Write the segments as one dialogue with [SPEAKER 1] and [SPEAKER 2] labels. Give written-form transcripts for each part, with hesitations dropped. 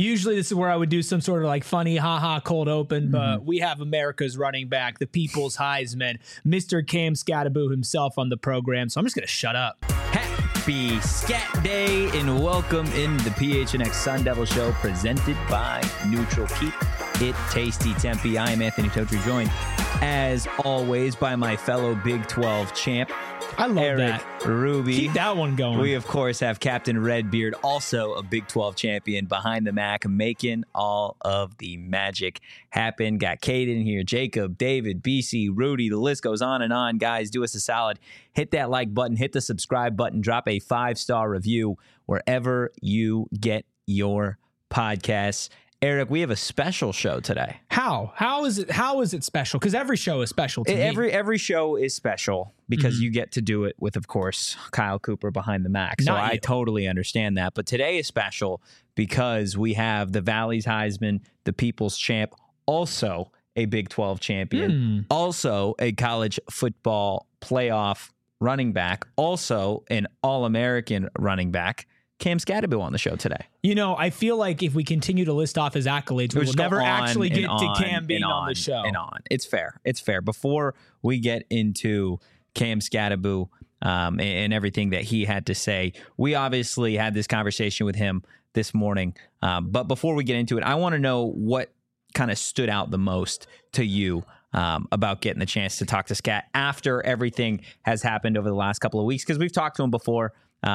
[SPEAKER 1] Usually this is where I would do some sort of like funny haha cold open, but we have America's running back, the people's Heisman, Mr. Cam Skattebo himself on the program. So I'm just going to shut up.
[SPEAKER 2] Happy Scat Day and welcome in the PHNX Sun Devil Show presented by Neutral. Keep it tasty, Tempe. I am Anthony Totri, joined as always by my fellow Big 12 champ,
[SPEAKER 1] I love
[SPEAKER 2] Eric
[SPEAKER 1] that.
[SPEAKER 2] Ruby.
[SPEAKER 1] Keep that one going.
[SPEAKER 2] We, of course, have Captain Redbeard, also a Big 12 champion behind the Mac, making all of the magic happen. Got Caden here, Jacob, David, BC, Rudy. The list goes on and on. Guys, do us a solid. Hit that like button, hit the subscribe button, drop a 5-star review wherever you get your podcasts. Eric, we have a special show today.
[SPEAKER 1] How is it special? Because every show is special to me.
[SPEAKER 2] Every show is special because you get to do it with, of course, Kyle Cooper behind the Mac. So I totally understand that. But today is special because we have the Valley's Heisman, the People's Champ, also a Big 12 champion, also a college football playoff running back, also an All-American running back, Cam Skattebo on the show today.
[SPEAKER 1] You know, I feel like if we continue to list off his accolades, we will never actually get to Cam being on the show.
[SPEAKER 2] It's fair. It's fair. Before we get into Cam Skattebo and everything that he had to say, we obviously had this conversation with him this morning. But before we get into it, I want to know what kind of stood out the most to you about getting the chance to talk to Scat after everything has happened over the last couple of weeks, because we've talked to him before.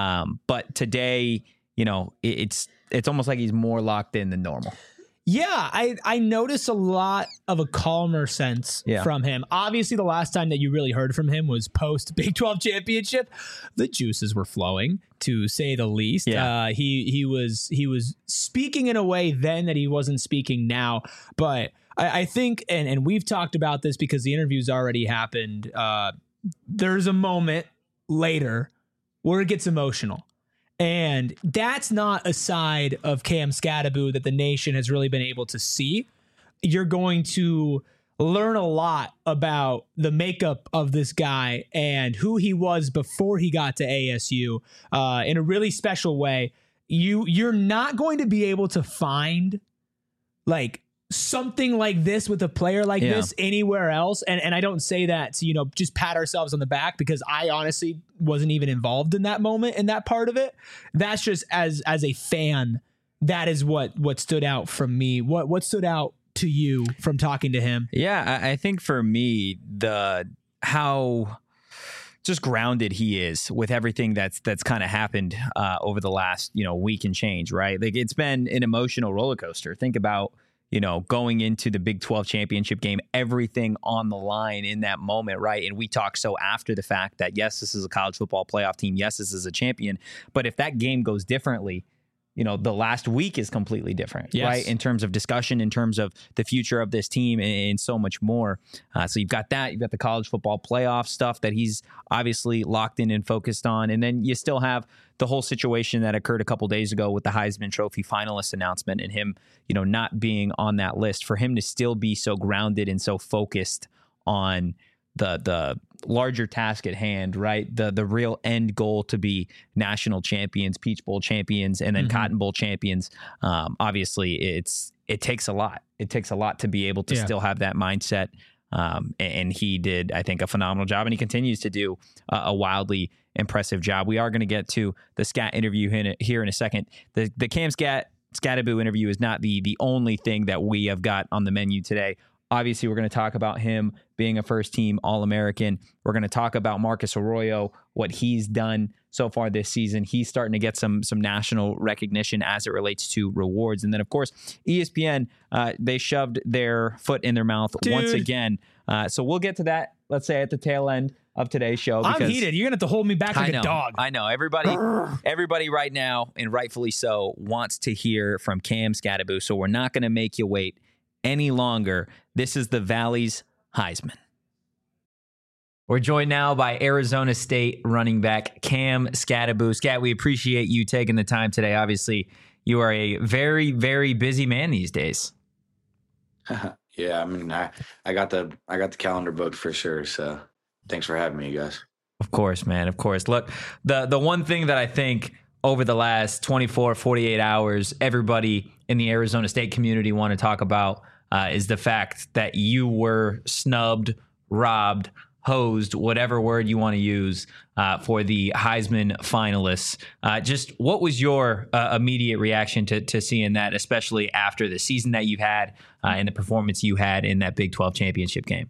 [SPEAKER 2] But today, you know, it's almost like he's more locked in than normal.
[SPEAKER 1] Yeah, I noticed a lot of a calmer sense from him. Obviously, the last time that you really heard from him was post Big 12 championship. The juices were flowing, to say the least.
[SPEAKER 2] Yeah.
[SPEAKER 1] He was speaking in a way then that he wasn't speaking now. But I think, and we've talked about this because the interview's already happened. There's a moment later where it gets emotional. And that's not a side of Cam Skattebo that the nation has really been able to see. You're going to learn a lot about the makeup of this guy and who he was before he got to ASU in a really special way. You're not going to be able to find like something like this with a player like this anywhere else. And I don't say that to, you know, just pat ourselves on the back, because I honestly wasn't even involved in that moment, in that part of it. That's just as a fan, that is what stood out from me. What stood out to you from talking to him?
[SPEAKER 2] Yeah, I think for me, how just grounded he is with everything that's kind of happened over the last, you know, week and change, right? Like, it's been an emotional roller coaster. Think about, you know, going into the Big 12 championship game, everything on the line in that moment, right? And we talk so after the fact that, yes, this is a college football playoff team. Yes, this is a champion. But if that game goes differently, you know, the last week is completely different, right? In terms of discussion, in terms of the future of this team and so much more. So you've got that. You've got the college football playoff stuff that he's obviously locked in and focused on. And then you still have the whole situation that occurred a couple days ago with the Heisman Trophy finalist announcement and him, you know, not being on that list. For him to still be so grounded and so focused on the larger task at hand, right? The real end goal to be national champions, Peach Bowl champions, and then Cotton Bowl champions. Obviously, it takes a lot. It takes a lot to be able to still have that mindset. And he did, I think, a phenomenal job, and he continues to do a wildly impressive job. We are going to get to the Scat interview here in a second. The Cam Skattebo interview is not the only thing that we have got on the menu today. Obviously, we're going to talk about him being a first-team All-American. We're going to talk about Marcus Arroyo, what he's done so far this season. He's starting to get some national recognition as it relates to rewards. And then, of course, ESPN, they shoved their foot in their mouth once again. So we'll get to that, let's say, at the tail end of today's show.
[SPEAKER 1] I'm heated. You're going to have to hold me back like a dog.
[SPEAKER 2] I know. Everybody right now, and rightfully so, wants to hear from Cam Skattebo. So we're not going to make you wait any longer. This is the Valley's Heisman. We're joined now by Arizona State running back Cam Skattebo. Scat, we appreciate you taking the time today. Obviously, you are a very, very busy man these days.
[SPEAKER 3] Yeah, I mean, I got the calendar booked for sure. So thanks for having me, you guys.
[SPEAKER 2] Of course, man. Of course. Look, the one thing that I think over the last 24, 48 hours, everybody in the Arizona State community want to talk about is the fact that you were snubbed, robbed, hosed, whatever word you want to use, for the Heisman finalists. Just what was your immediate reaction to seeing that, especially after the season that you've had and the performance you had in that Big 12 championship game?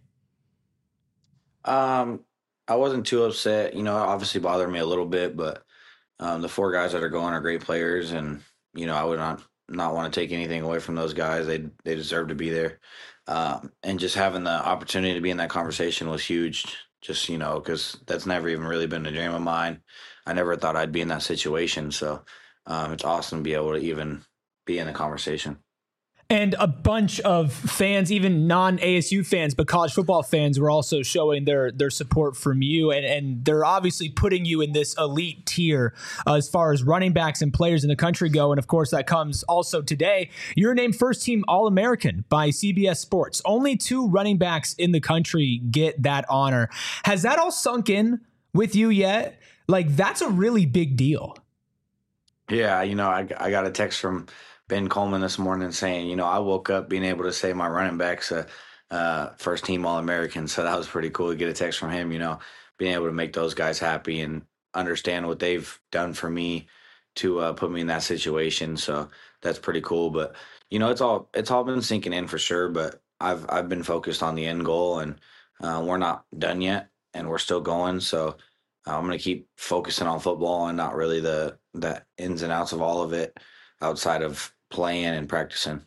[SPEAKER 3] I wasn't too upset. It obviously bothered me a little bit, but the 4 guys that are going are great players, and I would not want to take anything away from those guys. They deserve to be there, and just having the opportunity to be in that conversation was huge. Just because that's never even really been a dream of mine. I never thought I'd be in that situation, so it's awesome to be able to even be in the conversation.
[SPEAKER 1] And a bunch of fans, even non-ASU fans, but college football fans, were also showing their support from you. And they're obviously putting you in this elite tier as far as running backs and players in the country go. And of course, that comes also today. You're named first team All-American by CBS Sports. Only 2 running backs in the country get that honor. Has that all sunk in with you yet? Like, that's a really big deal.
[SPEAKER 3] Yeah, I got a text from Ben Coleman this morning saying, I woke up being able to say my running back's a first team All-American. So that was pretty cool to get a text from him, being able to make those guys happy and understand what they've done for me to put me in that situation. So that's pretty cool. But, it's all been sinking in for sure. But I've been focused on the end goal, and we're not done yet, and we're still going. So I'm going to keep focusing on football and not really the ins and outs of all of it outside of playing and practicing.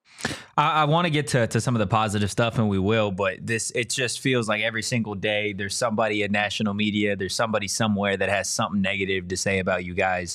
[SPEAKER 2] I want to get to some of the positive stuff, and we will, but it just feels like every single day there's somebody in national media, there's somebody somewhere that has something negative to say about you guys.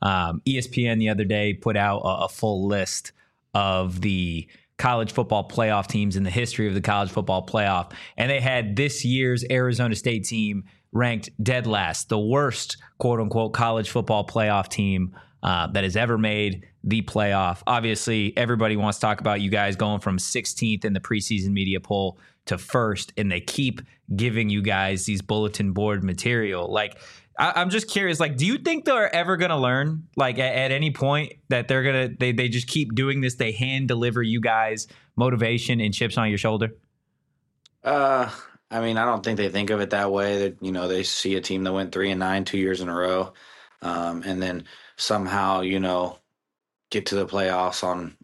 [SPEAKER 2] ESPN the other day put out a full list of the college football playoff teams in the history of the college football playoff, and they had this year's Arizona State team ranked dead last, the worst quote-unquote college football playoff team that has ever made the playoff. Obviously, everybody wants to talk about you guys going from 16th in the preseason media poll to first, and they keep giving you guys these bulletin board material. Like, I'm just curious, like, do you think they're ever going to learn, like, at any point that they just keep doing this? They hand deliver you guys motivation and chips on your shoulder?
[SPEAKER 3] I don't think they think of it that way. That they see a team that went 3-9 2 years in a row, and then somehow get to the playoffs on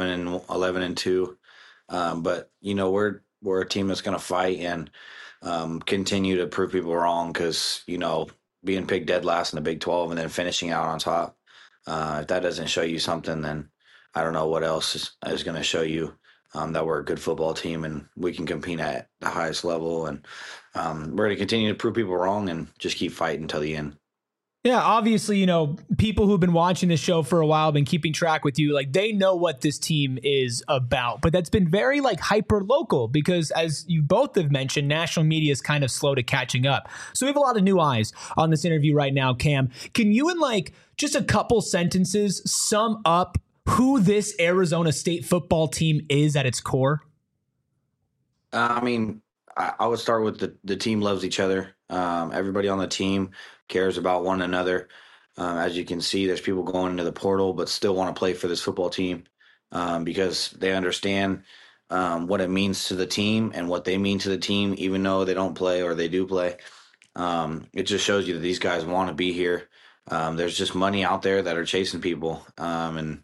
[SPEAKER 3] 11-2. But we're a team that's going to fight and continue to prove people wrong, because being picked dead last in the Big 12 and then finishing out on top, if that doesn't show you something, then I don't know what else is going to show you that we're a good football team and we can compete at the highest level. And we're going to continue to prove people wrong and just keep fighting until the end.
[SPEAKER 1] Yeah, obviously, people who've been watching this show for a while, been keeping track with you, like, they know what this team is about. But that's been very, hyper local, because as you both have mentioned, national media is kind of slow to catching up. So we have a lot of new eyes on this interview right now. Cam, can you in just a couple sentences sum up who this Arizona State football team is at its core?
[SPEAKER 3] I would start with the team loves each other. Everybody on the team cares about one another. As you can see, there's people going into the portal but still want to play for this football team because they understand what it means to the team and what they mean to the team, even though they don't play or they do play. It just shows you that these guys want to be here. There's just money out there that are chasing people. And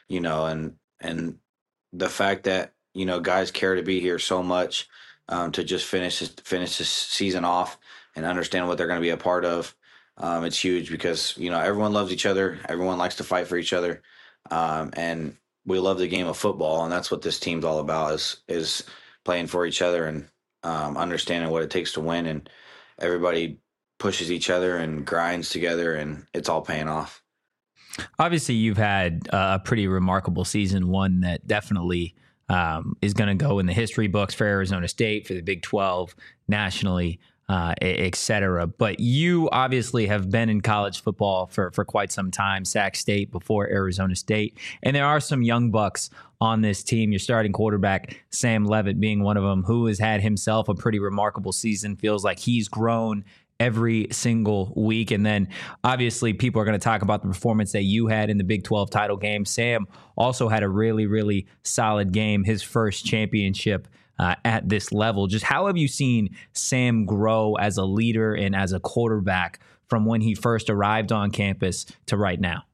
[SPEAKER 3] the fact that, guys care to be here so much to just finish this season off and understand what they're going to be a part of. It's huge because, everyone loves each other. Everyone likes to fight for each other. And we love the game of football. And that's what this team's all about is playing for each other and understanding what it takes to win. And everybody pushes each other and grinds together, and it's all paying off.
[SPEAKER 2] Obviously, you've had a pretty remarkable season, one that definitely is going to go in the history books for Arizona State, for the Big 12, nationally, et cetera. But you obviously have been in college football for quite some time, Sac State before Arizona State. And there are some young bucks on this team. Your starting quarterback, Sam Levitt, being one of them, who has had himself a pretty remarkable season. Feels like he's grown every single week. And then obviously people are going to talk about the performance that you had in the Big 12 title game. Sam also had a really, really solid game, his first championship at this level. Just how have you seen Sam grow as a leader and as a quarterback from when he first arrived on campus to right now?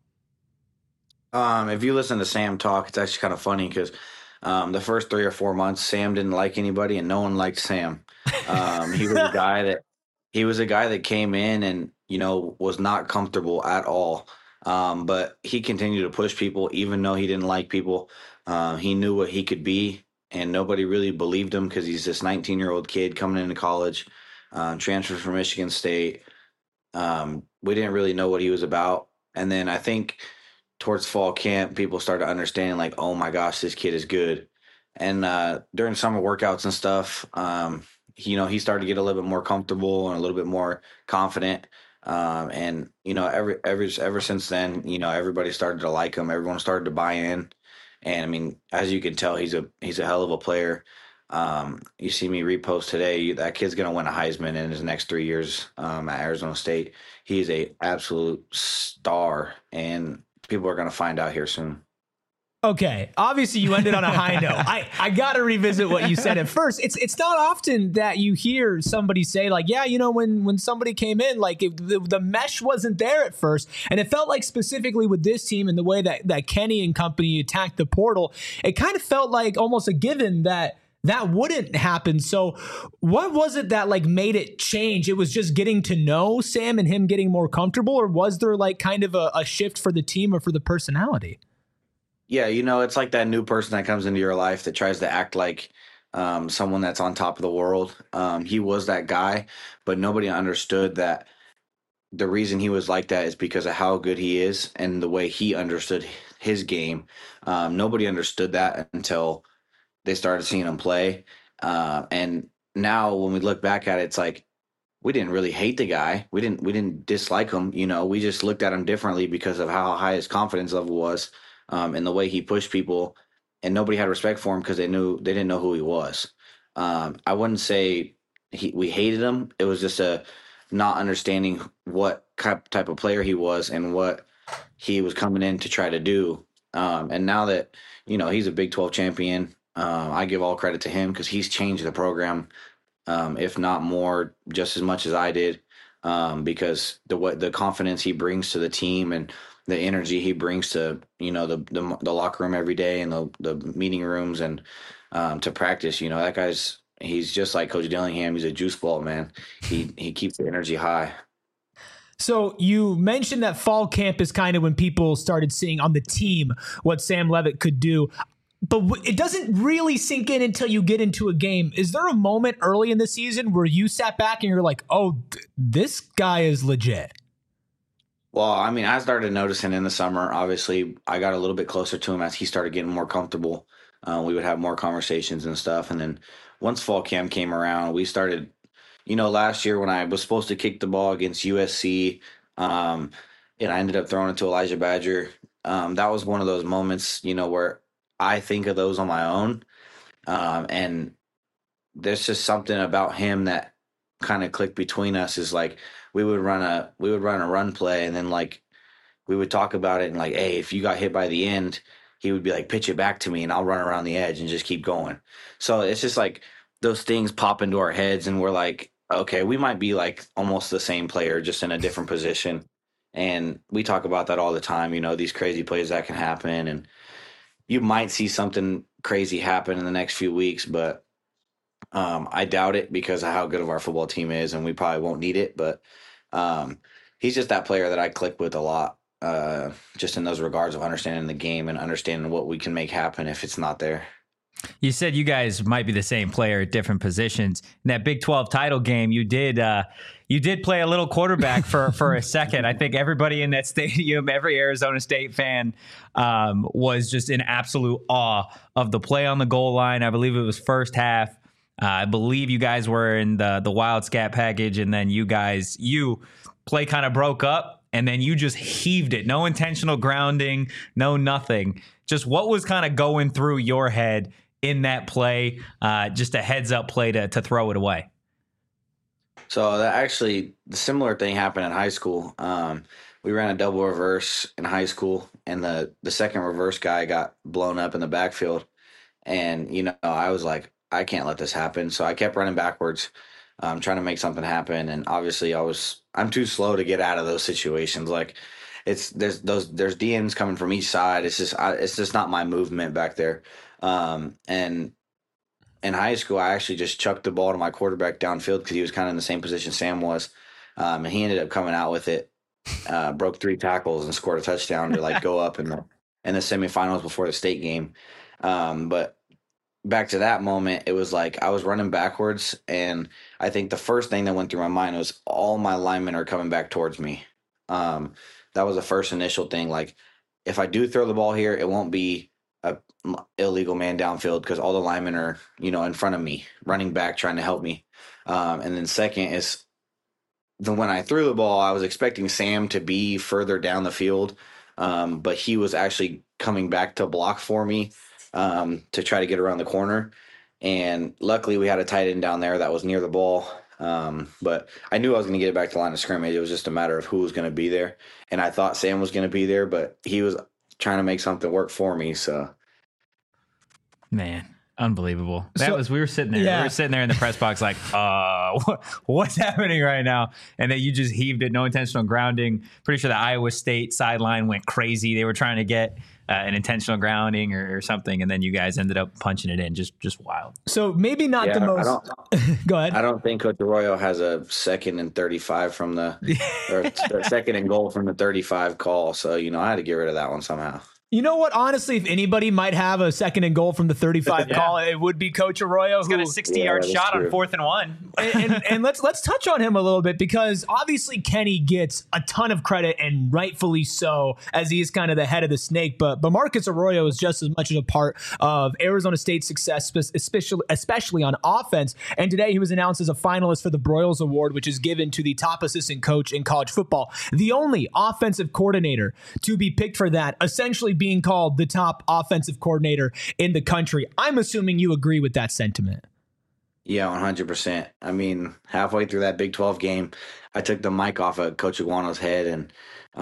[SPEAKER 3] If you listen to Sam talk, it's actually kind of funny because the first 3 or 4 months, Sam didn't like anybody, and no one liked Sam. He was a guy that came in and was not comfortable at all. But he continued to push people, even though he didn't like people. He knew what he could be, and nobody really believed him because he's this 19-year-old kid coming into college, transferred from Michigan State. We didn't really know what he was about, and then I think towards fall camp, people started understanding like, oh my gosh, this kid is good. And during summer workouts and stuff, he started to get a little bit more comfortable and a little bit more confident. And ever since then, everybody started to like him. Everyone started to buy in. And I mean, as you can tell, he's a hell of a player. You see me repost today, that kid's going to win a Heisman in his next 3 years at Arizona State. He is a absolute star, and people are going to find out here soon.
[SPEAKER 1] Okay, obviously you ended on a high note. I got to revisit what you said at first. It's not often that you hear somebody say like, yeah, when somebody came in, like the mesh wasn't there at first. And it felt like specifically with this team and the way that Kenny and company attacked the portal, it kind of felt like almost a given that wouldn't happen. So what was it that like made it change? It was just getting to know Sam and him getting more comfortable, or was there like kind of a shift for the team or for the personality?
[SPEAKER 3] Yeah, it's like that new person that comes into your life that tries to act like someone that's on top of the world. He was that guy, but nobody understood that the reason he was like that is because of how good he is and the way he understood his game. Nobody understood that until they started seeing him play. And now when we look back at it, it's like, we didn't really hate the guy. We didn't dislike him. We just looked at him differently because of how high his confidence level was, and the way he pushed people, and nobody had respect for him because they didn't know who he was. I wouldn't say we hated him. It was just a not understanding what type of player he was and what he was coming in to try to do. And now that, he's a Big 12 champion, I give all credit to him because he's changed the program, if not more, just as much as I did, because the confidence he brings to the team and the energy he brings to the locker room every day and the meeting rooms and to practice. That he's just like Coach Dillingham. He's a juice ball, man. He keeps the energy high.
[SPEAKER 1] So you mentioned that fall camp is kind of when people started seeing on the team what Sam Leavitt could do. But it doesn't really sink in until you get into a game. Is there a moment early in the season where you sat back and you're like, oh, this guy is legit?
[SPEAKER 3] Well, I mean, I started noticing in the summer. Obviously, I got a little bit closer to him as he started getting more comfortable. We would have more conversations and stuff. And then once fall camp came around, we started, last year when I was supposed to kick the ball against USC, and I ended up throwing it to Elijah Badger. That was one of those moments, where I think of those on my own. And there's just something about him that kind of clicked between us, is like, we would run a run play, and then like we would talk about it, and like, hey, if you got hit by the end, he would be like, pitch it back to me and I'll run around the edge and just keep going. So it's just like those things pop into our heads, and we're like, okay, we might be like almost the same player, just in a different position. And we talk about that all the time, these crazy plays that can happen, and you might see something crazy happen in the next few weeks, but I doubt it because of how good of our football team is, and we probably won't need it. But he's just that player that I click with a lot, just in those regards of understanding the game and understanding what we can make happen if it's not there.
[SPEAKER 2] You said you guys might be the same player at different positions. In that Big 12 title game, you did play a little quarterback for a second. I think everybody in that stadium, every Arizona State fan, was just in absolute awe of the play on the goal line. I believe it was first half. I believe you guys were in the wild scat package, and then you play kind of broke up, and then you just heaved it. No intentional grounding, no nothing. Just what was kind of going through your head in that play, just a heads up play to throw it away?
[SPEAKER 3] So that actually, the similar thing happened in high school. We ran a double reverse in high school, and the second reverse guy got blown up in the backfield. And I was like, I can't let this happen. So I kept running backwards, trying to make something happen. And obviously, I'm too slow to get out of those situations. Like, there's DNs coming from each side. It's just not my movement back there. And in high school, I actually just chucked the ball to my quarterback downfield because he was kind of in the same position Sam was, and he ended up coming out with it, broke 3 tackles and scored a touchdown to like go up in the semifinals before the state game. But back to that moment, it was like I was running backwards, and I think the first thing that went through my mind was all my linemen are coming back towards me. That was the first initial thing. Like, if I do throw the ball here, it won't be a illegal man downfield because all the linemen are, in front of me, running back, trying to help me. And then second is when I threw the ball, I was expecting Sam to be further down the field, but he was actually coming back to block for me to try to get around the corner. And luckily we had a tight end down there that was near the ball. But I knew I was going to get it back to the line of scrimmage. It was just a matter of who was going to be there. And I thought Sam was going to be there, but he was trying to make something work for me. So,
[SPEAKER 2] man, unbelievable. We were sitting there.
[SPEAKER 1] Yeah.
[SPEAKER 2] We were sitting there in the press box like, what's happening right now? And then you just heaved it, no intentional grounding. Pretty sure the Iowa State sideline went crazy. They were trying to get an intentional grounding or something, and then you guys ended up punching it in. Just wild.
[SPEAKER 1] So maybe not the most. Go ahead.
[SPEAKER 3] I don't think Coach Arroyo has a 2nd and 35 from or 2nd and goal from the 35 call. So I had to get rid of that one somehow.
[SPEAKER 1] You know what? Honestly, if anybody might have a 2nd and goal from the 35 call, it would be Coach Arroyo.
[SPEAKER 2] He's got a 60-yard shot on 4th and 1.
[SPEAKER 1] and let's touch on him a little bit, because obviously Kenny gets a ton of credit, and rightfully so, as he is kind of the head of the snake. But Marcus Arroyo is just as much as a part of Arizona State's success, especially on offense. And today he was announced as a finalist for the Broyles Award, which is given to the top assistant coach in college football, the only offensive coordinator to be picked for that, essentially being called the top offensive coordinator in the country. I'm assuming you agree with that sentiment.
[SPEAKER 3] Yeah, 100%. I mean, halfway through that Big 12 game, I took the mic off of Coach Iguano's head, and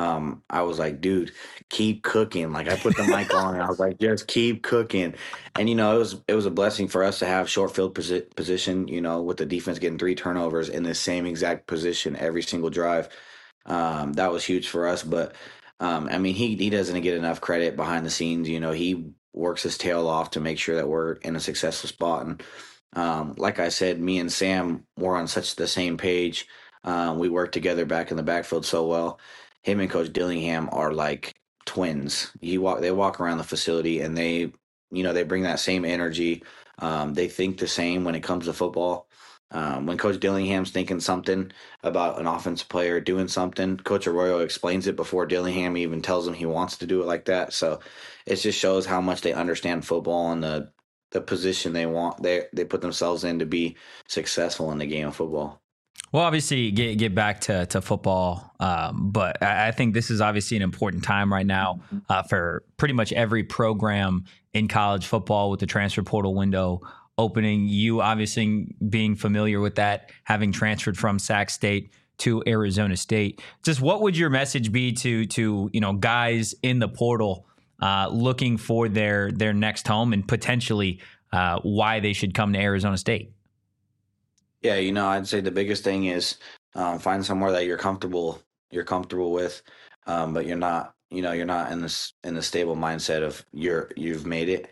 [SPEAKER 3] I was like, dude, keep cooking. Like, I put the mic on, and I was like, just keep cooking. And, it was a blessing for us to have short field position, with the defense getting 3 turnovers in the same exact position every single drive. That was huge for us. But, I mean, he doesn't get enough credit behind the scenes. He works his tail off to make sure that we're in a successful spot. And like I said, me and Sam were on such the same page. We worked together back in the backfield so well. Him and Coach Dillingham are like twins. They walk around the facility, and they bring that same energy. They think the same when it comes to football. When Coach Dillingham's thinking something about an offensive player doing something, Coach Arroyo explains it before Dillingham even tells him he wants to do it like that. So it just shows how much they understand football and the position they put themselves in to be successful in the game of football.
[SPEAKER 2] Well, obviously, get back to football, but I think this is obviously an important time right now for pretty much every program in college football with the transfer portal window opening. You obviously being familiar with that, having transferred from Sac State to Arizona State. Just what would your message be to guys in the portal looking for their next home, and potentially why they should come to Arizona State?
[SPEAKER 3] Yeah, I'd say the biggest thing is find somewhere that you're comfortable with, but you're not in the stable mindset of you've made it.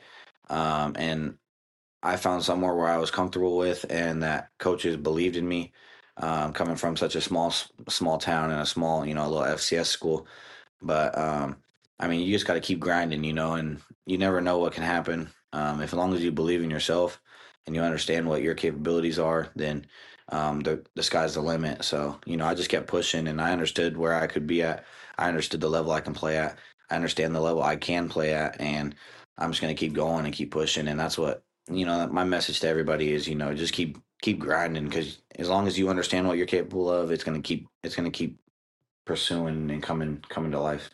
[SPEAKER 3] And I found somewhere where I was comfortable with, and that coaches believed in me. Coming from such a small town and a small, little FCS school, but I mean, you just got to keep grinding, and you never know what can happen. As long as you believe in yourself and you understand what your capabilities are, then the sky's the limit. So, I just kept pushing, and I understood where I could be at. I understood the level I can play at. I understand the level I can play at, and I'm just going to keep going and keep pushing. And that's what, my message to everybody is, just keep grinding, because as long as you understand what you're capable of, it's going to keep pursuing and coming to life.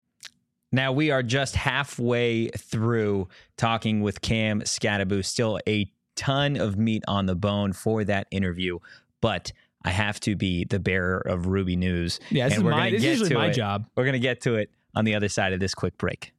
[SPEAKER 2] Now we are just halfway through talking with Cam Skattebo. Still a ton of meat on the bone for that interview, but I have to be the bearer of Ruby news.
[SPEAKER 1] Yeah, this is usually my job.
[SPEAKER 2] We're going to get to it on the other side of this quick break.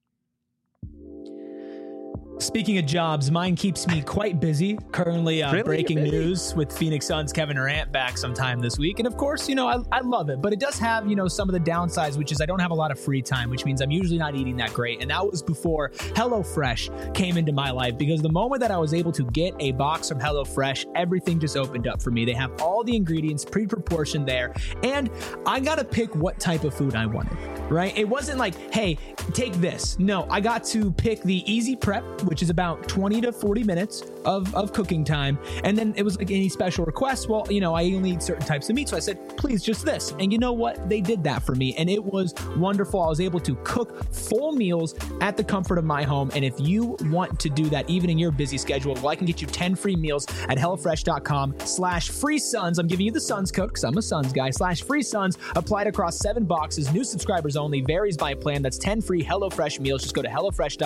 [SPEAKER 1] Speaking of jobs, mine keeps me quite busy. Currently breaking news with Phoenix Suns Kevin Durant back sometime this week. And of course, I love it, but it does have, some of the downsides, which is I don't have a lot of free time, which means I'm usually not eating that great. And that was before HelloFresh came into my life, because the moment that I was able to get a box from HelloFresh, everything just opened up for me. They have all the ingredients pre-proportioned there, and I got to pick what type of food I wanted, right? It wasn't like, hey, take this. No, I got to pick the easy prep, which is about 20 to 40 minutes of cooking time. And then it was like any special requests. Well, I only eat certain types of meat. So I said, please, just this. And you know what? They did that for me. And it was wonderful. I was able to cook full meals at the comfort of my home. And if you want to do that, even in your busy schedule, well, I can get you 10 free meals at HelloFresh.com/FreeSuns. I'm giving you the Suns code because I'm a Suns guy, /FreeSuns, applied across 7 boxes, new subscribers only, varies by plan. That's 10 free HelloFresh meals. Just go to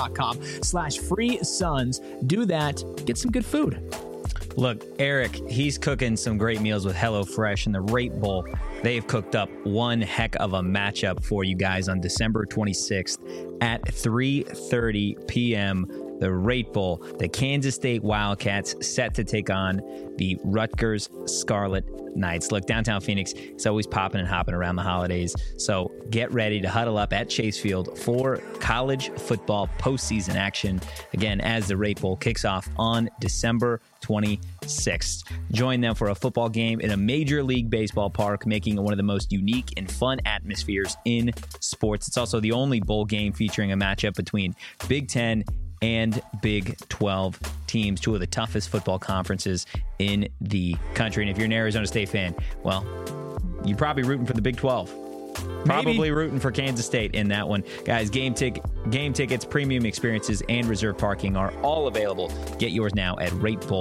[SPEAKER 1] HelloFresh.com/FreeSuns. Do that. Get some good food.
[SPEAKER 2] Look, Eric, he's cooking some great meals with HelloFresh, and the Rate Bowl, they've cooked up one heck of a matchup for you guys on December 26th at 3:30 p.m. The Rate Bowl, the Kansas State Wildcats set to take on the Rutgers Scarlet Knights. Look, downtown Phoenix is always popping and hopping around the holidays, so get ready to huddle up at Chase Field for college football postseason action, again, as the Rate Bowl kicks off on December 26th. Join them for a football game in a Major League Baseball park, making it one of the most unique and fun atmospheres in sports. It's also the only bowl game featuring a matchup between Big Ten and Big 12 teams, two of the toughest football conferences in the country. And if you're an Arizona State fan, well, you're probably rooting for the Big 12. Probably rooting for Kansas State in that one. Guys, game tickets, premium experiences, and reserved parking are all available. Get yours now at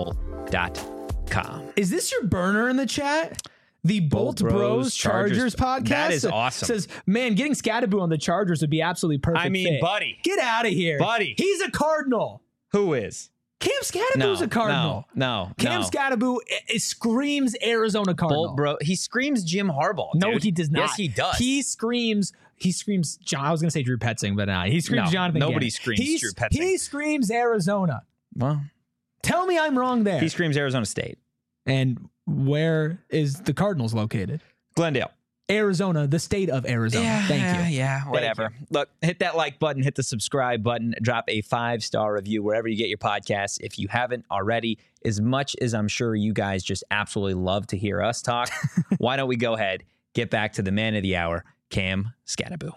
[SPEAKER 2] ratebowl.com.
[SPEAKER 1] Is this your burner in the chat? The Bolt Bros Chargers podcast?
[SPEAKER 2] That is awesome.
[SPEAKER 1] Says, man, getting Scadaboo on the Chargers would be absolutely perfect.
[SPEAKER 2] I mean,
[SPEAKER 1] fit.
[SPEAKER 2] buddy.
[SPEAKER 1] Get out of here.
[SPEAKER 2] Buddy.
[SPEAKER 1] He's a Cardinal.
[SPEAKER 2] Who is?
[SPEAKER 1] Cam Scadaboo's a Cardinal.
[SPEAKER 2] No.
[SPEAKER 1] Cam Scadaboo screams Arizona Cardinal.
[SPEAKER 2] Bolt Bro. He screams Jim Harbaugh, dude.
[SPEAKER 1] No, he does not.
[SPEAKER 2] Yes, he does.
[SPEAKER 1] He screams John. I was going to say Drew Petzing, but he screams Jonathan
[SPEAKER 2] nobody
[SPEAKER 1] Gannon.
[SPEAKER 2] screams Drew Petzing.
[SPEAKER 1] He screams Arizona.
[SPEAKER 2] Well,
[SPEAKER 1] tell me I'm wrong there.
[SPEAKER 2] He screams Arizona State.
[SPEAKER 1] And where is the Cardinals located?
[SPEAKER 2] Glendale.
[SPEAKER 1] Arizona, the state of Arizona. Thank you.
[SPEAKER 2] Yeah, whatever. Look, hit that like button, hit the subscribe button, drop a 5-star review wherever you get your podcasts if you haven't already. As much as I'm sure you guys just absolutely love to hear us talk, why don't we go ahead, get back to the man of the hour, Cam Scadaboo.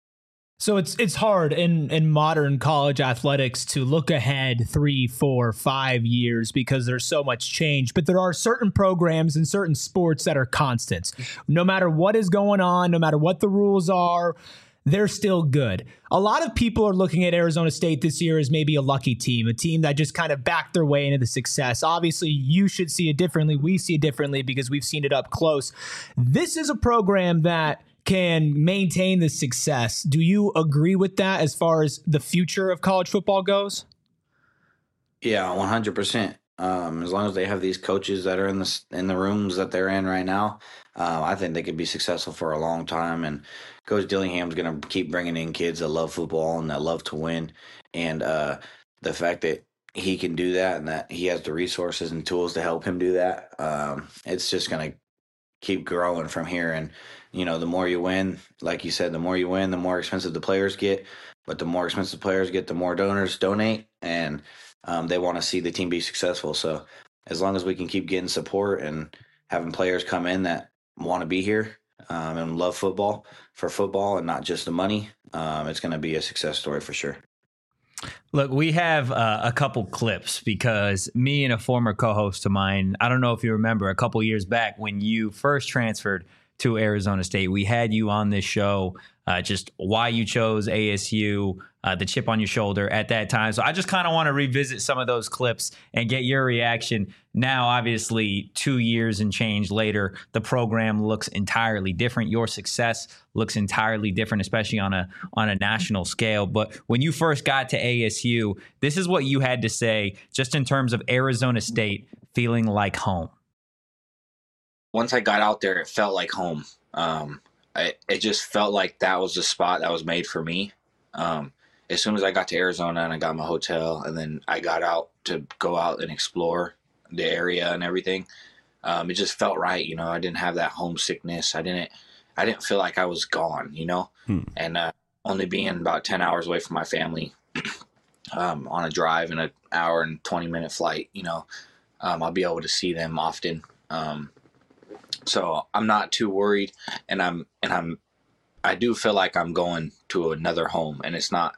[SPEAKER 1] So it's hard in modern college athletics to look ahead 3, 4, 5 years because there's so much change. But there are certain programs and certain sports that are constants. No matter what is going on, no matter what the rules are, they're still good. A lot of people are looking at Arizona State this year as maybe a lucky team, a team that just kind of backed their way into the success. Obviously, you should see it differently. We see it differently because we've seen it up close. This is a program that can maintain the success. Do you agree with that as far as the future of college football goes?
[SPEAKER 3] Yeah, 100%. As long as they have these coaches that are in the rooms that they're in right now, I think they could be successful for a long time. And Coach Dillingham's going to keep bringing in kids that love football and that love to win. And the fact that he can do that and that he has the resources and tools to help him do that, it's just going to keep growing from here. And the more you win, like you said, the more you win, the more expensive the players get. But the more expensive players get, the more donors donate, and they want to see the team be successful. So as long as we can keep getting support and having players come in that want to be here and love football for football and not just the money, it's going to be a success story for sure.
[SPEAKER 2] Look, we have a couple clips because me and a former co-host of mine, I don't know if you remember, a couple years back when you first transferred to Arizona State, we had you on this show, just why you chose ASU, the chip on your shoulder at that time. So I just kind of want to revisit some of those clips and get your reaction. Now, obviously, 2 years and change later, the program looks entirely different. Your success looks entirely different, especially on a national scale. But when you first got to ASU, this is what you had to say just in terms of Arizona State feeling like home.
[SPEAKER 3] once I got out there, it felt like home. It just felt like that was the spot that was made for me. As soon as I got to Arizona and I got my hotel, and then I got out to go out and explore the area and everything, it just felt right. I didn't have that homesickness. I didn't feel like I was gone. And only being about 10 hours away from my family, on a drive and an hour and 20-minute flight, I'll be able to see them often. So I'm not too worried, and I do feel like I'm going to another home, and it's not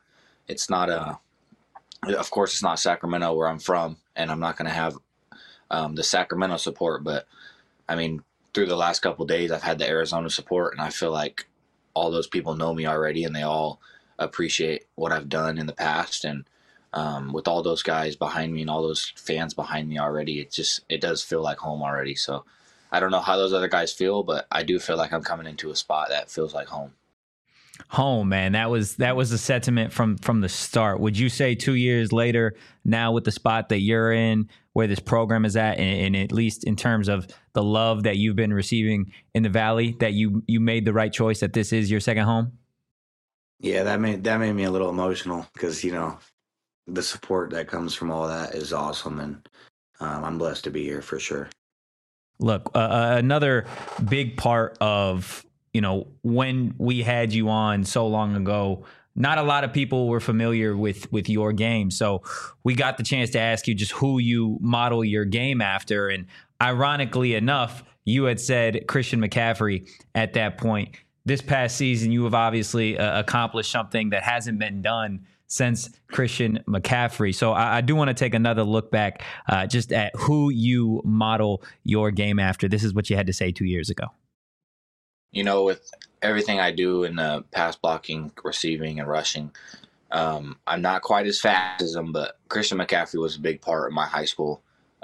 [SPEAKER 3] of course it's not Sacramento where I'm from, and I'm not going to have the Sacramento support, but I mean, through the last couple of days, I've had the Arizona support, and I feel like all those people know me already, and they all appreciate what I've done in the past. And with all those guys behind me and all those fans behind me already, it does feel like home already. So I don't know how those other guys feel, but I do feel like I'm coming into a spot that feels like home.
[SPEAKER 2] Home, man. That was the sentiment from the start. Would you say 2 years later, now with the spot that you're in, where this program is at, and at least in terms of the love that you've been receiving in the Valley, that you made the right choice, that this is your second home?
[SPEAKER 3] Yeah, that made me a little emotional because the support that comes from all that is awesome, and I'm blessed to be here for sure.
[SPEAKER 2] Look, another big part of when we had you on so long ago, not a lot of people were familiar with your game. So we got the chance to ask you just who you model your game after. And ironically enough, you had said Christian McCaffrey at that point. This past season, you have obviously accomplished something that hasn't been done since Christian McCaffrey. So I do want to take another look back just at who you model your game after. This is what you had to say 2 years ago.
[SPEAKER 3] With everything I do in the pass blocking, receiving, and rushing, I'm not quite as fast as him, but Christian McCaffrey was a big part of my high school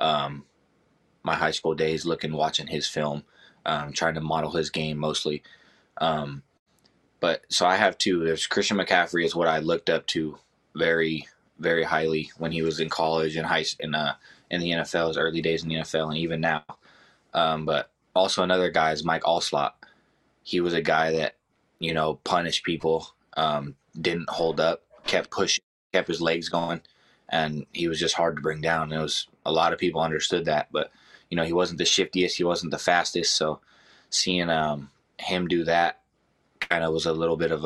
[SPEAKER 3] days, watching his film, trying to model his game mostly. But so I have two. There's Christian McCaffrey is what I looked up to very, very highly when he was in college and in the NFL, his early days in the NFL, and even now. But also another guy is Mike Allslott. He was a guy that, punished people, didn't hold up, kept pushing, kept his legs going, and he was just hard to bring down. And a lot of people understood that, but, he wasn't the shiftiest, he wasn't the fastest. So seeing him do that kind of was a little bit of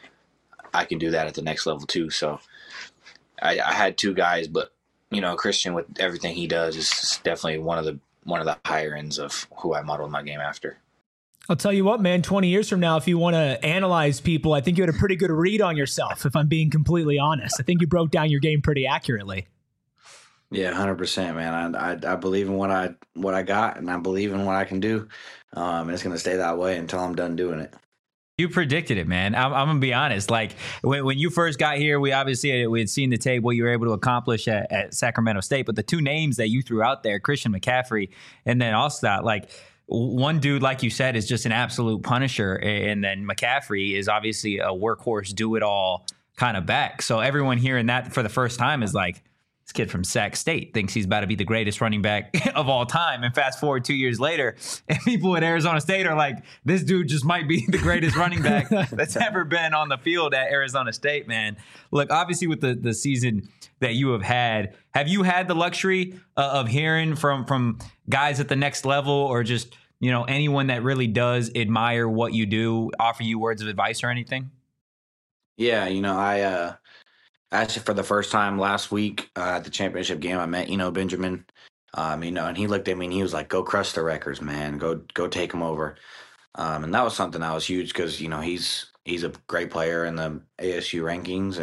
[SPEAKER 3] I can do that at the next level too. So I had two guys, but, Christian with everything he does is definitely one of the higher ends of who I modeled my game after.
[SPEAKER 1] I'll tell you what, man, 20 years from now, if you want to analyze people, I think you had a pretty good read on yourself, if I'm being completely honest. I think you broke down your game pretty accurately.
[SPEAKER 3] Yeah, 100%, man. I believe in what I got, and I believe in what I can do. And it's going to stay that way until I'm done doing it.
[SPEAKER 2] You predicted it, man. I'm going to be honest. Like when you first got here, we had seen the tape, what you were able to accomplish at Sacramento State. But the two names that you threw out there, Christian McCaffrey and then Allslott, like one dude, like you said, is just an absolute punisher. And then McCaffrey is obviously a workhorse, do-it-all kind of back. So everyone hearing that for the first time is like, this kid from Sac State thinks he's about to be the greatest running back of all time. And fast forward 2 years later, and people at Arizona State are like, this dude just might be the greatest running back that's ever been on the field at Arizona State, man. Look, obviously with the season that you have you had the luxury of hearing from guys at the next level, or just, anyone that really does admire what you do, offer you words of advice or anything?
[SPEAKER 3] Yeah, I actually, for the first time last week at the championship game, I met Benjamin. And he looked at me and he was like, "Go crush the records, man. Go take them over." And that was something that was huge because he's a great player in the ASU rankings,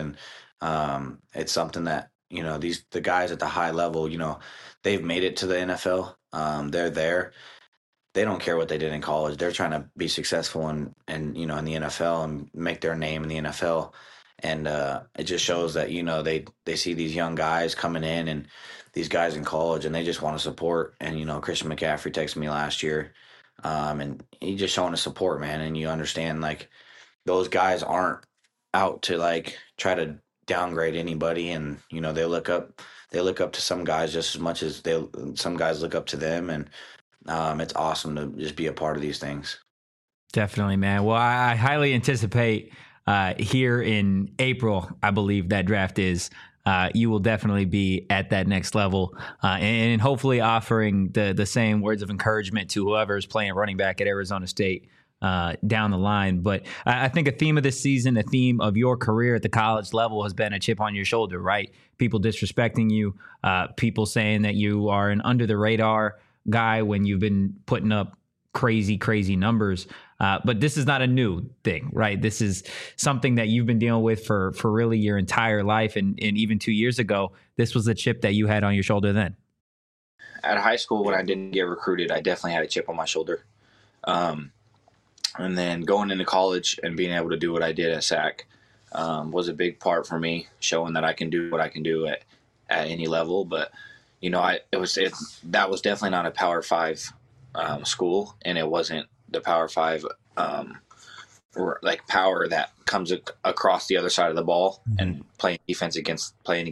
[SPEAKER 3] and it's something that the guys at the high level, they've made it to the NFL. They're there. They don't care what they did in college. They're trying to be successful in the NFL and make their name in the NFL. And it just shows that, they see these young guys coming in and these guys in college, and they just want to support. And, Christian McCaffrey texted me last year, and he just showing his support, man. And you understand, like, those guys aren't out to, like, try to downgrade anybody. And, they look up to some guys just as much as some guys look up to them. And it's awesome to just be a part of these things.
[SPEAKER 2] Definitely, man. Well, I highly anticipate here in April, I believe that draft is. You will definitely be at that next level, and hopefully offering the same words of encouragement to whoever is playing running back at Arizona State down the line. But I think a theme of this season, a theme of your career at the college level, has been a chip on your shoulder, right? People disrespecting you, people saying that you are an under the radar guy when you've been putting up crazy numbers. But this is not a new thing, right? This is something that you've been dealing with for really your entire life. And even 2 years ago, this was the chip that you had on your shoulder then.
[SPEAKER 4] At high school, when I didn't get recruited, I definitely had a chip on my shoulder. And then going into college and being able to do what I did at SAC was a big part for me, showing that I can do what I can do at any level. But, that was definitely not a Power 5 school, and it wasn't the Power 5 power that comes across the other side of the ball and playing defense against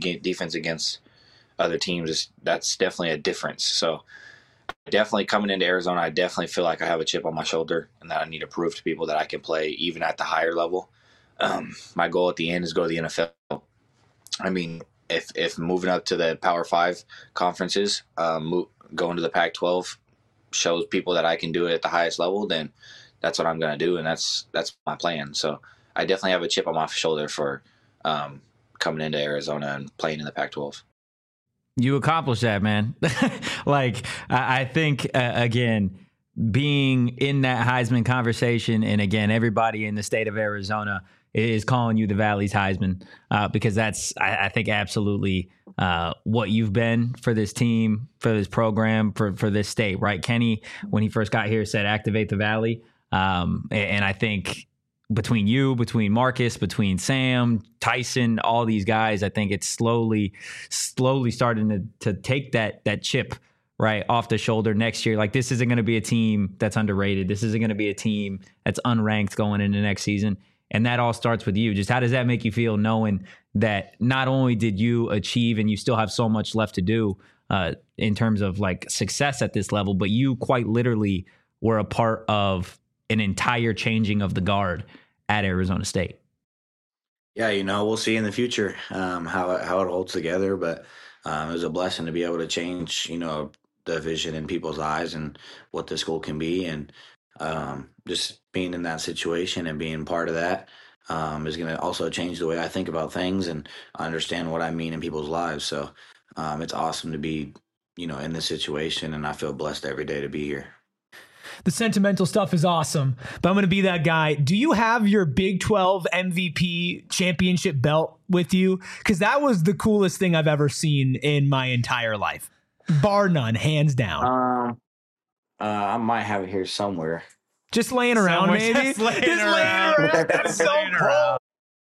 [SPEAKER 4] other teams. That's definitely a difference. So definitely coming into Arizona, I definitely feel like I have a chip on my shoulder and that I need to prove to people that I can play even at the higher level. My goal at the end is go to the NFL. I mean, if moving up to the Power 5 conferences, going to the Pac-12 shows people that I can do it at the highest level, then that's what I'm going to do, and that's my plan. So I definitely have a chip on my shoulder for coming into Arizona and playing in the Pac-12.
[SPEAKER 2] You accomplished that, man. I think, again, being in that Heisman conversation, and again, everybody in the state of Arizona is calling you the Valley's Heisman because that's, I think, absolutely what you've been for this team, for this program, for this state, right? Kenny, when he first got here, said activate the Valley. And I think between you, between Marcus, between Sam, Tyson, all these guys, I think it's slowly starting to take that chip right off the shoulder next year. Like, this isn't going to be a team that's underrated. This isn't going to be a team that's unranked going into next season. And that all starts with you. Just how does that make you feel knowing that not only did you achieve and you still have so much left to do in terms of like success at this level, but you quite literally were a part of an entire changing of the guard at Arizona State?
[SPEAKER 3] Yeah, we'll see in the future how it holds together. But it was a blessing to be able to change, the vision in people's eyes and what the school can be. And just being in that situation and being part of that is going to also change the way I think about things and understand what I mean in people's lives. So it's awesome to be, in this situation, and I feel blessed every day to be here.
[SPEAKER 1] The sentimental stuff is awesome, but I'm going to be that guy. Do you have your Big 12 MVP championship belt with you? Because that was the coolest thing I've ever seen in my entire life, bar none, hands down.
[SPEAKER 3] I might have it here somewhere.
[SPEAKER 1] Just laying around, maybe. Just laying around. That's so cool.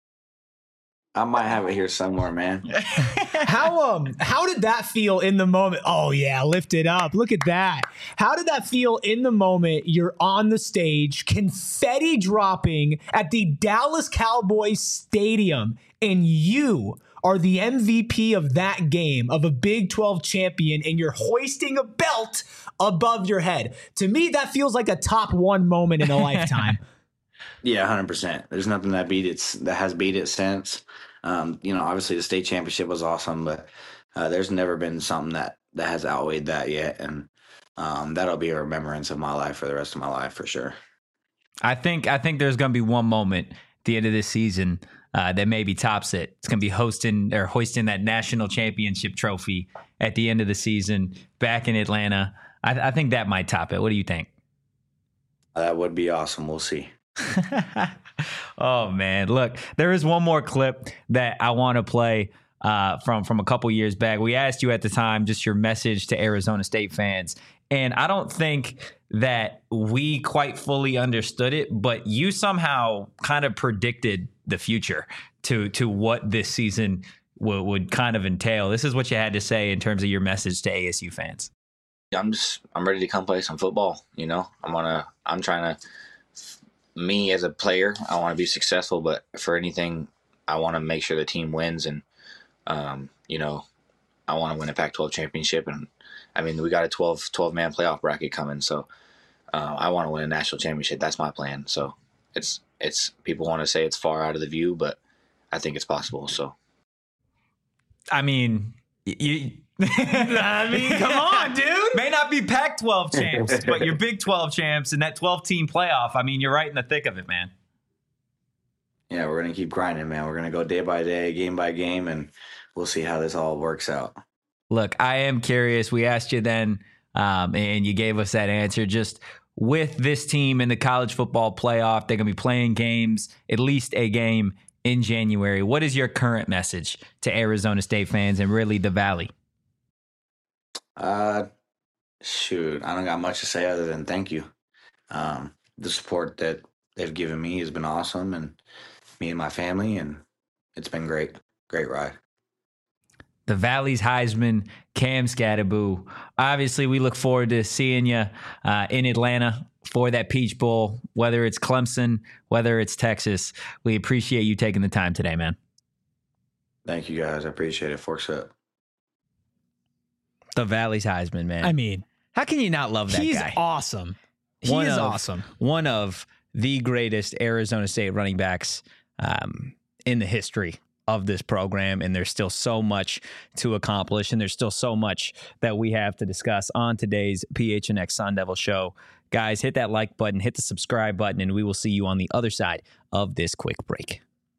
[SPEAKER 3] I might have it here somewhere, man.
[SPEAKER 1] How did that feel in the moment? Oh yeah, lift it up. Look at that. How did that feel in the moment? You're on the stage, confetti dropping at the Dallas Cowboys Stadium, and you are the MVP of that game, of a Big 12 champion, and you're hoisting a belt above your head. To me, that feels like a top one moment in a lifetime.
[SPEAKER 3] Yeah, 100%. There's nothing that has beat it since. Obviously the state championship was awesome, but there's never been something that has outweighed that yet. And that'll be a remembrance of my life for the rest of my life, for sure.
[SPEAKER 2] I think there's going to be one moment at the end of this season that maybe tops it. It's going to be hoisting that national championship trophy at the end of the season back in Atlanta. I think that might top it. What do you think?
[SPEAKER 3] That would be awesome. We'll see.
[SPEAKER 2] Oh man, look, there is one more clip that I want to play from a couple years back. We asked you at the time just your message to Arizona State fans, and I don't think that we quite fully understood it, but you somehow kind of predicted the future to what this season would kind of entail. This is what you had to say in terms of your message to ASU fans.
[SPEAKER 4] I'm ready to come play some football. I'm trying to. Me as a player, I want to be successful, but for anything, I want to make sure the team wins and, I want to win a Pac-12 championship. And I mean, we got a 12-man playoff bracket coming. So I want to win a national championship. That's my plan. So it's people want to say it's far out of the view, but I think it's possible. So,
[SPEAKER 2] I mean, come on, dude. May not be Pac-12 champs, but you're Big 12 champs and that 12-team playoff. I mean, you're right in the thick of it, man.
[SPEAKER 3] Yeah, we're going to keep grinding, man. We're going to go day by day, game by game, and we'll see how this all works out.
[SPEAKER 2] Look, I am curious. We asked you then, and you gave us that answer. Just with this team in the college football playoff, they're going to be playing games, at least a game in January. What is your current message to Arizona State fans and really the Valley?
[SPEAKER 3] Shoot, I don't got much to say other than thank you. The support that they've given me has been awesome, and me and my family, and it's been great. Great ride.
[SPEAKER 2] The Valley's Heisman, Cam Skattebo. Obviously, we look forward to seeing you in Atlanta for that Peach Bowl, whether it's Clemson, whether it's Texas. We appreciate you taking the time today, man.
[SPEAKER 3] Thank you, guys. I appreciate it. Forks up.
[SPEAKER 2] The Valley's Heisman, man.
[SPEAKER 1] I mean,
[SPEAKER 2] how can you not love that
[SPEAKER 1] he's
[SPEAKER 2] guy?
[SPEAKER 1] Awesome. He is awesome.
[SPEAKER 2] One of the greatest Arizona State running backs in the history of this program, and there's still so much to accomplish, and there's still so much that we have to discuss on today's PHNX Sun Devil Show. Guys, hit that like button, hit the subscribe button, and we will see you on the other side of this quick break.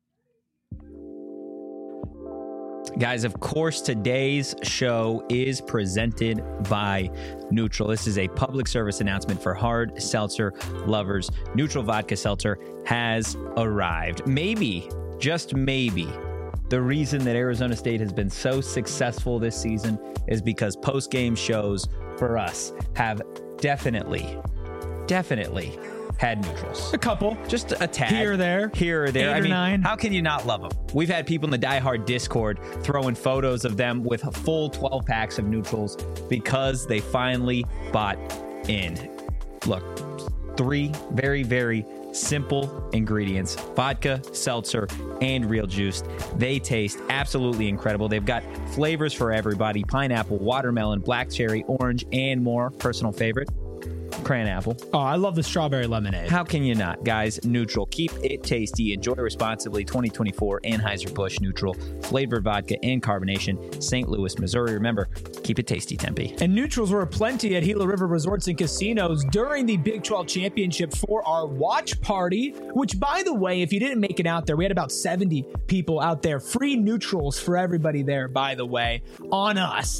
[SPEAKER 2] Guys, of course, today's show is presented by Neutral. This is a public service announcement for hard seltzer lovers. Neutral Vodka Seltzer has arrived. Maybe, just maybe, the reason that Arizona State has been so successful this season is because post-game shows for us have definitely had neutrals.
[SPEAKER 1] A couple.
[SPEAKER 2] Just a tad.
[SPEAKER 1] Here or there.
[SPEAKER 2] Here or there.
[SPEAKER 1] 8 or 9.
[SPEAKER 2] How can you not love them? We've had people in the Die Hard Discord throwing photos of them with full 12 packs of neutrals because they finally bought in. Look, 3 very, very simple ingredients: vodka, seltzer, and real juice. They taste absolutely incredible. They've got flavors for everybody: pineapple, watermelon, black cherry, orange, and more. Personal favorite, cran apple.
[SPEAKER 1] Oh, I love the strawberry lemonade.
[SPEAKER 2] How can you not? Guys, Neutral. Keep it tasty. Enjoy responsibly. 2024 Anheuser-Busch Neutral. Flavored vodka and carbonation. St. Louis, Missouri. Remember, keep it tasty, Tempe.
[SPEAKER 1] And neutrals were aplenty at Gila River Resorts and Casinos during the Big 12 Championship for our watch party, which, by the way, if you didn't make it out there, we had about 70 people out there. Free neutrals for everybody there, by the way, on us.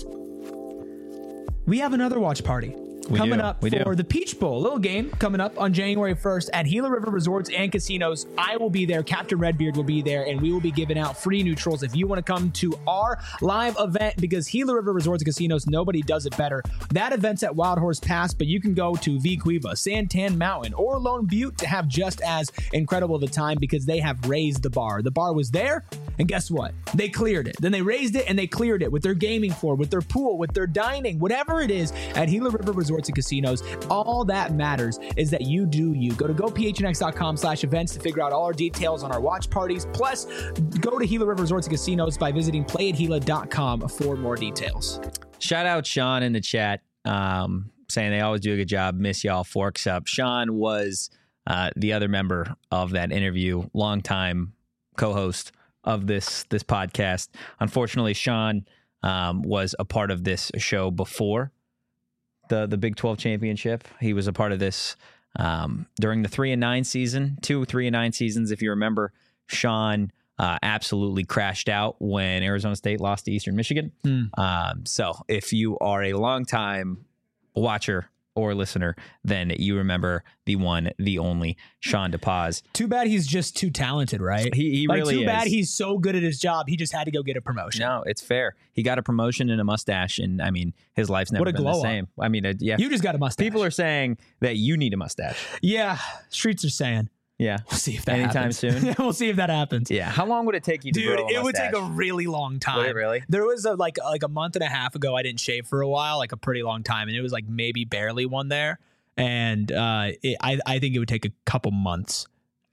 [SPEAKER 1] We have another watch party coming up for the Peach Bowl. A little game coming up on January 1st at Gila River Resorts and Casinos. I will be there. Captain Redbeard will be there, and we will be giving out free neutrals if you want to come to our live event, because Gila River Resorts and Casinos, nobody does it better. That event's at Wild Horse Pass, but you can go to V Cueva, Santan Mountain, or Lone Butte to have just as incredible of a time, because they have raised the bar. The bar was there, and guess what? They cleared it. Then they raised it, and they cleared it with their gaming floor, with their pool, with their dining, whatever it is at Gila River Resorts and Casinos. All that matters is that you do you. Go to gophnx.com/events to figure out all our details on our watch parties. Plus, go to Gila River Resorts and Casinos by visiting playatgila.com for more details.
[SPEAKER 2] Shout out Sean in the chat, saying they always do a good job. Miss y'all. Forks up. Sean was the other member of that interview, longtime co-host of this podcast. Unfortunately, Sean was a part of this show before the Big 12 championship. He was a part of this during the 3-9 season, 2 3-9 seasons. If you remember, Sean absolutely crashed out when Arizona State lost to Eastern Michigan. So if you are a longtime watcher or listener, then you remember the one, the only Sean DePaz.
[SPEAKER 1] Too bad he's just too talented, right?
[SPEAKER 2] He really is.
[SPEAKER 1] Too bad he's so good at his job. He just had to go get a promotion.
[SPEAKER 2] No, it's fair. He got a promotion and a mustache, and I mean, his life's never been the same. I mean, yeah.
[SPEAKER 1] You just got a mustache.
[SPEAKER 2] People are saying that you need a mustache.
[SPEAKER 1] Yeah, streets are saying.
[SPEAKER 2] Yeah.
[SPEAKER 1] We'll see if that
[SPEAKER 2] anytime
[SPEAKER 1] happens.
[SPEAKER 2] soon.
[SPEAKER 1] We'll see if that happens.
[SPEAKER 2] Yeah. How long would it take you to grow a mustache?
[SPEAKER 1] It would take a really long time.
[SPEAKER 2] Would it really?
[SPEAKER 1] There was a month and a half ago, I didn't shave for a while, like a pretty long time. And it was like maybe barely one there. And I think it would take a couple months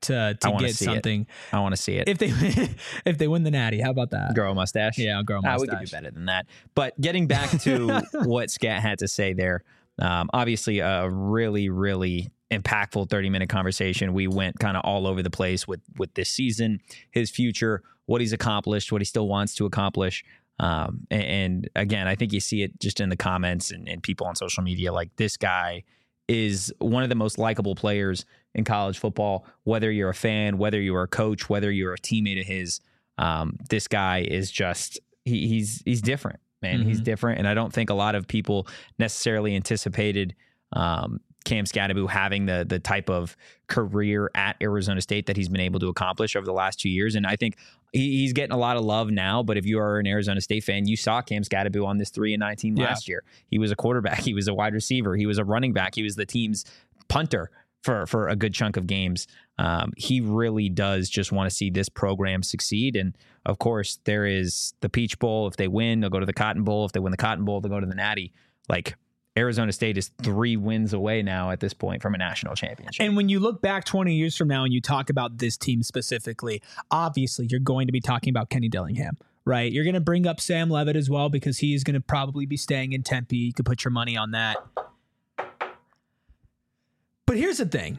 [SPEAKER 1] to
[SPEAKER 2] wanna
[SPEAKER 1] get
[SPEAKER 2] see
[SPEAKER 1] something.
[SPEAKER 2] I want to see it.
[SPEAKER 1] If they win the Natty, how about that?
[SPEAKER 2] Grow a mustache.
[SPEAKER 1] Yeah, I'll grow a mustache.
[SPEAKER 2] We could do better than that. But getting back to what Scat had to say there, obviously a really, really impactful 30-minute conversation. We went kind of all over the place with this season, his future, what he's accomplished, what he still wants to accomplish. And again, I think you see it just in the comments and people on social media. Like, this guy is one of the most likable players in college football, whether you're a fan, whether you're a coach, whether you're a teammate of his. This guy is just, he's different, man. Mm-hmm. He's different. And I don't think a lot of people necessarily anticipated Cam Skattebo having the type of career at Arizona State that he's been able to accomplish over the last 2 years. And I think he's getting a lot of love now, but if you are an Arizona State fan, you saw Cam Skattebo on this 3-9 team last year. He was a quarterback. He was a wide receiver. He was a running back. He was the team's punter for a good chunk of games. He really does just want to see this program succeed. And of course, there is the Peach Bowl. If they win, they'll go to the Cotton Bowl. If they win the Cotton Bowl, they'll go to the Natty. Like, Arizona State is 3 wins away now at this point from a national championship.
[SPEAKER 1] And when you look back 20 years from now and you talk about this team specifically, obviously you're going to be talking about Kenny Dillingham, right? You're going to bring up Sam Levitt as well because he's going to probably be staying in Tempe. You could put your money on that. But here's the thing.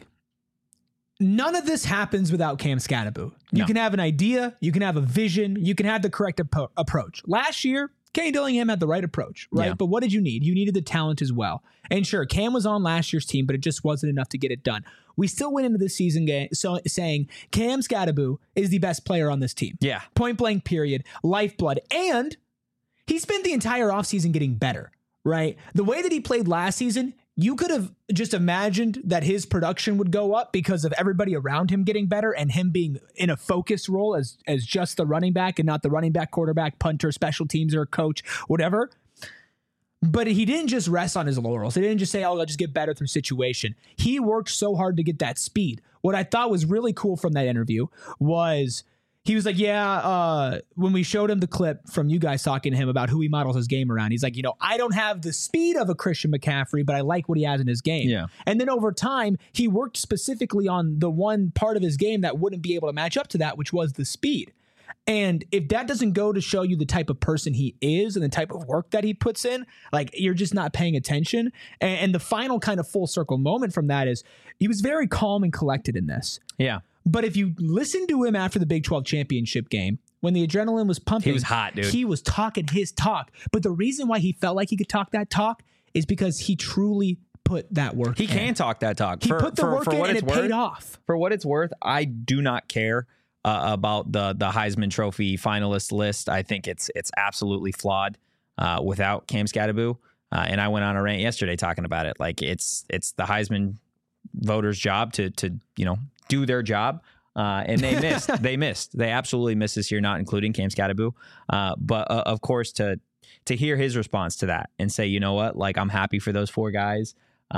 [SPEAKER 1] None of this happens without Cam Skattebo. You can have an idea, you can have a vision, you can have the correct approach. Last year, Kenny Dillingham had the right approach, right? Yeah. But what did you need? You needed the talent as well. And sure, Cam was on last year's team, but it just wasn't enough to get it done. We still went into this season saying Cam Skattebo is the best player on this team.
[SPEAKER 2] Yeah.
[SPEAKER 1] Point blank, period. Lifeblood. And he spent the entire offseason getting better, right? The way that he played last season, you could have just imagined that his production would go up because of everybody around him getting better and him being in a focused role as just the running back and not the running back, quarterback, punter, special teams, or coach, whatever. But he didn't just rest on his laurels. He didn't just say, oh, I'll just get better through situation. He worked so hard to get that speed. What I thought was really cool from that interview was he was like, when we showed him the clip from you guys talking to him about who he models his game around, he's like, I don't have the speed of a Christian McCaffrey, but I like what he has in his game.
[SPEAKER 2] Yeah.
[SPEAKER 1] And then over time, he worked specifically on the one part of his game that wouldn't be able to match up to that, which was the speed. And if that doesn't go to show you the type of person he is and the type of work that he puts in, like, you're just not paying attention. And the final kind of full circle moment from that is he was very calm and collected in this.
[SPEAKER 2] Yeah.
[SPEAKER 1] But if you listen to him after the Big 12 championship game, when the adrenaline was pumping,
[SPEAKER 2] he was hot, dude.
[SPEAKER 1] He was talking his talk. But the reason why he felt like he could talk that talk is because he truly put that work in.
[SPEAKER 2] He can talk that talk.
[SPEAKER 1] He put the work in and it paid off.
[SPEAKER 2] For what it's worth, I do not care about the Heisman Trophy finalist list. I think it's absolutely flawed without Cam Skattebo. And I went on a rant yesterday talking about it. Like, it's the Heisman voters' job to do their job. And they missed. They absolutely missed this year, not including Cam Skattebo. But of course, to hear his response to that and say, you know what, like, I'm happy for those 4 guys,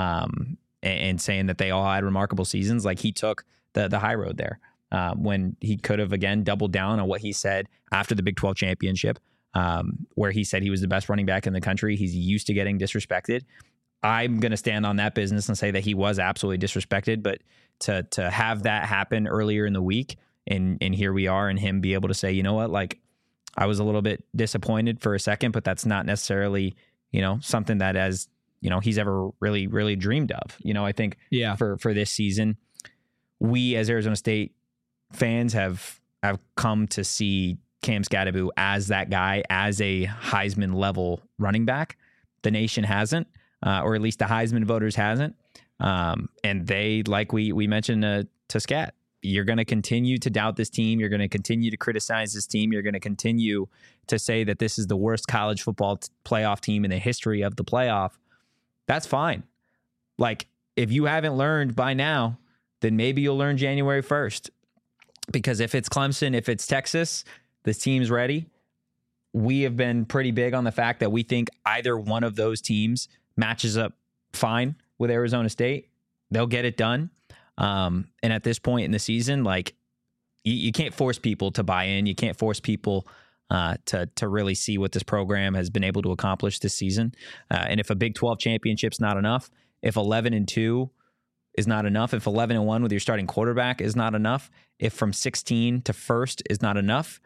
[SPEAKER 2] and saying that they all had remarkable seasons. Like, he took the high road there when he could have, again, doubled down on what he said after the Big 12 championship, where he said he was the best running back in the country. He's used to getting disrespected. I'm going to stand on that business and say that he was absolutely disrespected, but to have that happen earlier in the week and here we are, and him be able to say, you know what, like, I was a little bit disappointed for a second, but that's not necessarily, something that he's ever really, really dreamed of. I think for this season, we as Arizona State fans have come to see Cam Skattebo as that guy, as a Heisman level running back. The nation hasn't. Or at least the Heisman voters hasn't. And they, like we mentioned to Scat, you're going to continue to doubt this team. You're going to continue to criticize this team. You're going to continue to say that this is the worst college football playoff team in the history of the playoff. That's fine. Like, if you haven't learned by now, then maybe you'll learn January 1st. Because if it's Clemson, if it's Texas, this team's ready. We have been pretty big on the fact that we think either one of those teams matches up fine with Arizona State. They'll get it done. And at this point in the season, like, you can't force people to buy in. You can't force people to really see what this program has been able to accomplish this season. And if a Big 12 championship's not enough, if 11-2 is not enough, if 11-1 with your starting quarterback is not enough, if from 16 to first is not enough,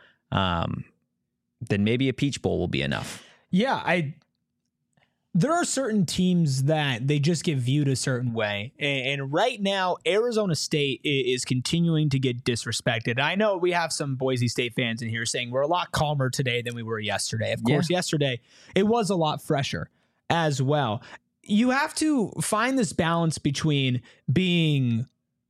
[SPEAKER 2] then maybe a Peach Bowl will be enough.
[SPEAKER 1] Yeah, there are certain teams that they just get viewed a certain way. And right now, Arizona State is continuing to get disrespected. I know we have some Boise State fans in here saying we're a lot calmer today than we were yesterday. Of course, yesterday it was a lot fresher as well. You have to find this balance between being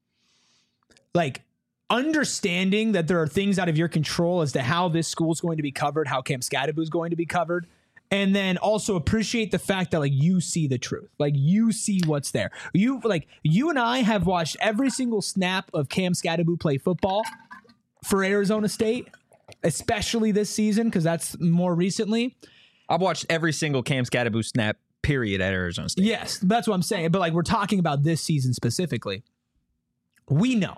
[SPEAKER 1] like understanding that there are things out of your control as to how this school is going to be covered, how Cam Scadaboo is going to be covered, and then also appreciate the fact that like you see the truth, like you see what's there. You and I have watched every single snap of Cam Scadaboo play football for Arizona State, especially this season because that's more recently.
[SPEAKER 2] I've watched every single Cam Scadaboo snap period at Arizona State.
[SPEAKER 1] Yes, that's what I'm saying. But like we're talking about this season specifically. We know.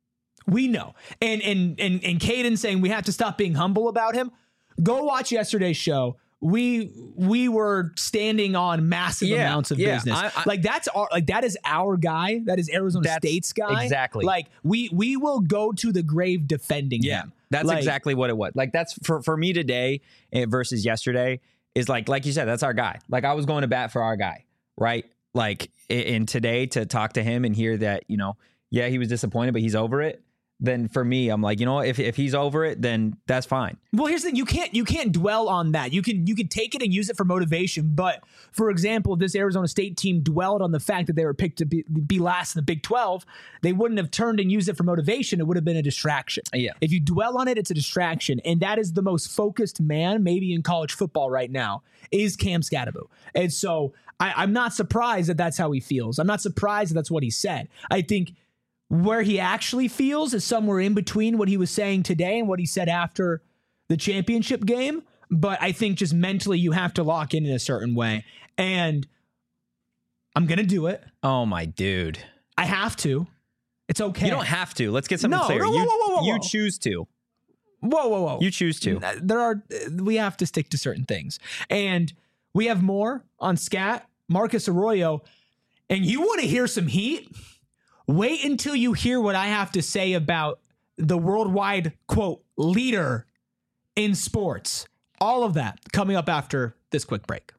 [SPEAKER 1] And Caden saying we have to stop being humble about him. Go watch yesterday's show. We were standing on massive amounts of business. That is our guy. That is Arizona State's guy.
[SPEAKER 2] Exactly.
[SPEAKER 1] Like we will go to the grave defending him.
[SPEAKER 2] That's exactly what it was. Like that's for me today versus yesterday is like you said, that's our guy. Like I was going to bat for our guy, right? Like in today to talk to him and hear that, he was disappointed, but he's over it. Then for me, I'm like, if he's over it, then that's fine.
[SPEAKER 1] Well, here's the thing. You can't dwell on that. You can take it and use it for motivation. But for example, if this Arizona State team dwelled on the fact that they were picked to be last in the Big 12, they wouldn't have turned and used it for motivation. It would have been a distraction.
[SPEAKER 2] Yeah.
[SPEAKER 1] If you dwell on it, it's a distraction. And that is the most focused man maybe in college football right now is Cam Scadaboo. And so I'm not surprised that that's how he feels. I'm not surprised that that's what he said. I think where he actually feels is somewhere in between what he was saying today and what he said after the championship game. But I think just mentally you have to lock in a certain way. And I'm going to do it.
[SPEAKER 2] Oh, my dude.
[SPEAKER 1] I have to. It's okay.
[SPEAKER 2] You don't have to. Let's get something clear.
[SPEAKER 1] Whoa.
[SPEAKER 2] You choose to.
[SPEAKER 1] Whoa.
[SPEAKER 2] You choose to.
[SPEAKER 1] We have to stick to certain things. And we have more on Scat, Marcus Arroyo. And you want to hear some heat? Wait until you hear what I have to say about the worldwide, quote, leader in sports. All of that coming up after this quick break.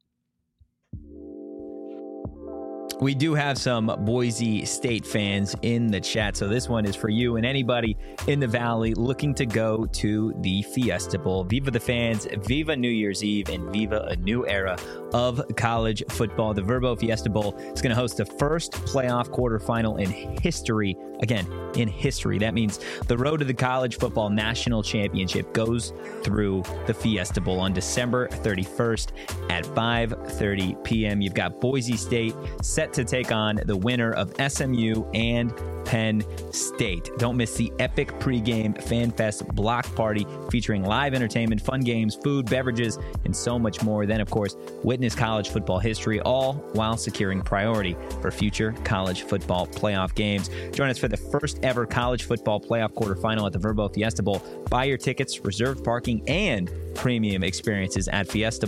[SPEAKER 2] We do have some Boise State fans in the chat, so this one is for you and anybody in the Valley looking to go to the Fiesta Bowl. Viva the fans, Viva New Year's Eve, and Viva a new era of college football. The Verbo Fiesta Bowl is going to host the first playoff quarterfinal in history. Again, in history. That means the road to the college football national championship goes through the Fiesta Bowl on December 31st at 5:30 p.m. You've got Boise State set to take on the winner of SMU and Penn State. Don't miss the epic pregame Fan Fest block party featuring live entertainment, fun games, food, beverages, and so much more. Then, of course, witness college football history, all while securing priority for future college football playoff games. Join us for the first ever college football playoff quarterfinal at the Verbo Fiesta Bowl. Buy your tickets, reserved parking, and premium experiences at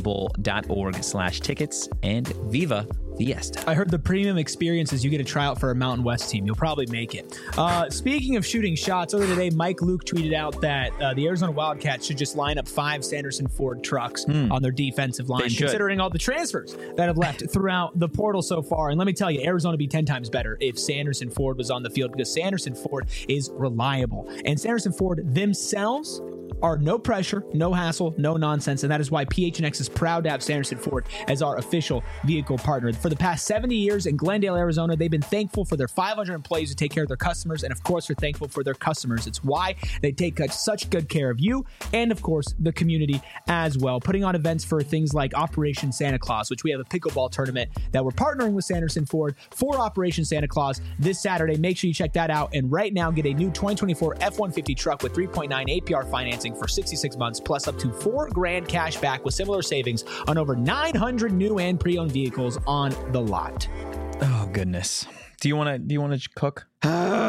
[SPEAKER 2] fiestabowl.org/tickets, and Viva Fiesta.
[SPEAKER 1] I heard the premium experiences, you get a tryout for a Mountain West team. You'll probably make it. Speaking of shooting shots, earlier today, Mike Luke tweeted out that the Arizona Wildcats should just line up 5 Sanderson Ford trucks on their defensive line, considering all the transfers that have left throughout the portal so far. And let me tell you, Arizona would be 10 times better if Sanderson Ford was on the field, because Sanderson Ford is reliable. And Sanderson Ford themselves are no pressure, no hassle, no nonsense. And that is why PHNX is proud to have Sanderson Ford as our official vehicle partner. For the past 70 years in Glendale, Arizona, they've been thankful for their 500 employees who take care of their customers. And of course, they're thankful for their customers. It's why they take such good care of you and, of course, the community as well. Putting on events for things like Operation Santa Claus, which we have a pickleball tournament that we're partnering with Sanderson Ford for Operation Santa Claus this Saturday. Make sure you check that out. And right now, get a new 2024 F-150 truck with 3.9 APR financing for 66 months, plus up to $4,000 cash back with similar savings on over 900 new and pre-owned vehicles on the lot.
[SPEAKER 2] Oh goodness. Do you want to cook? You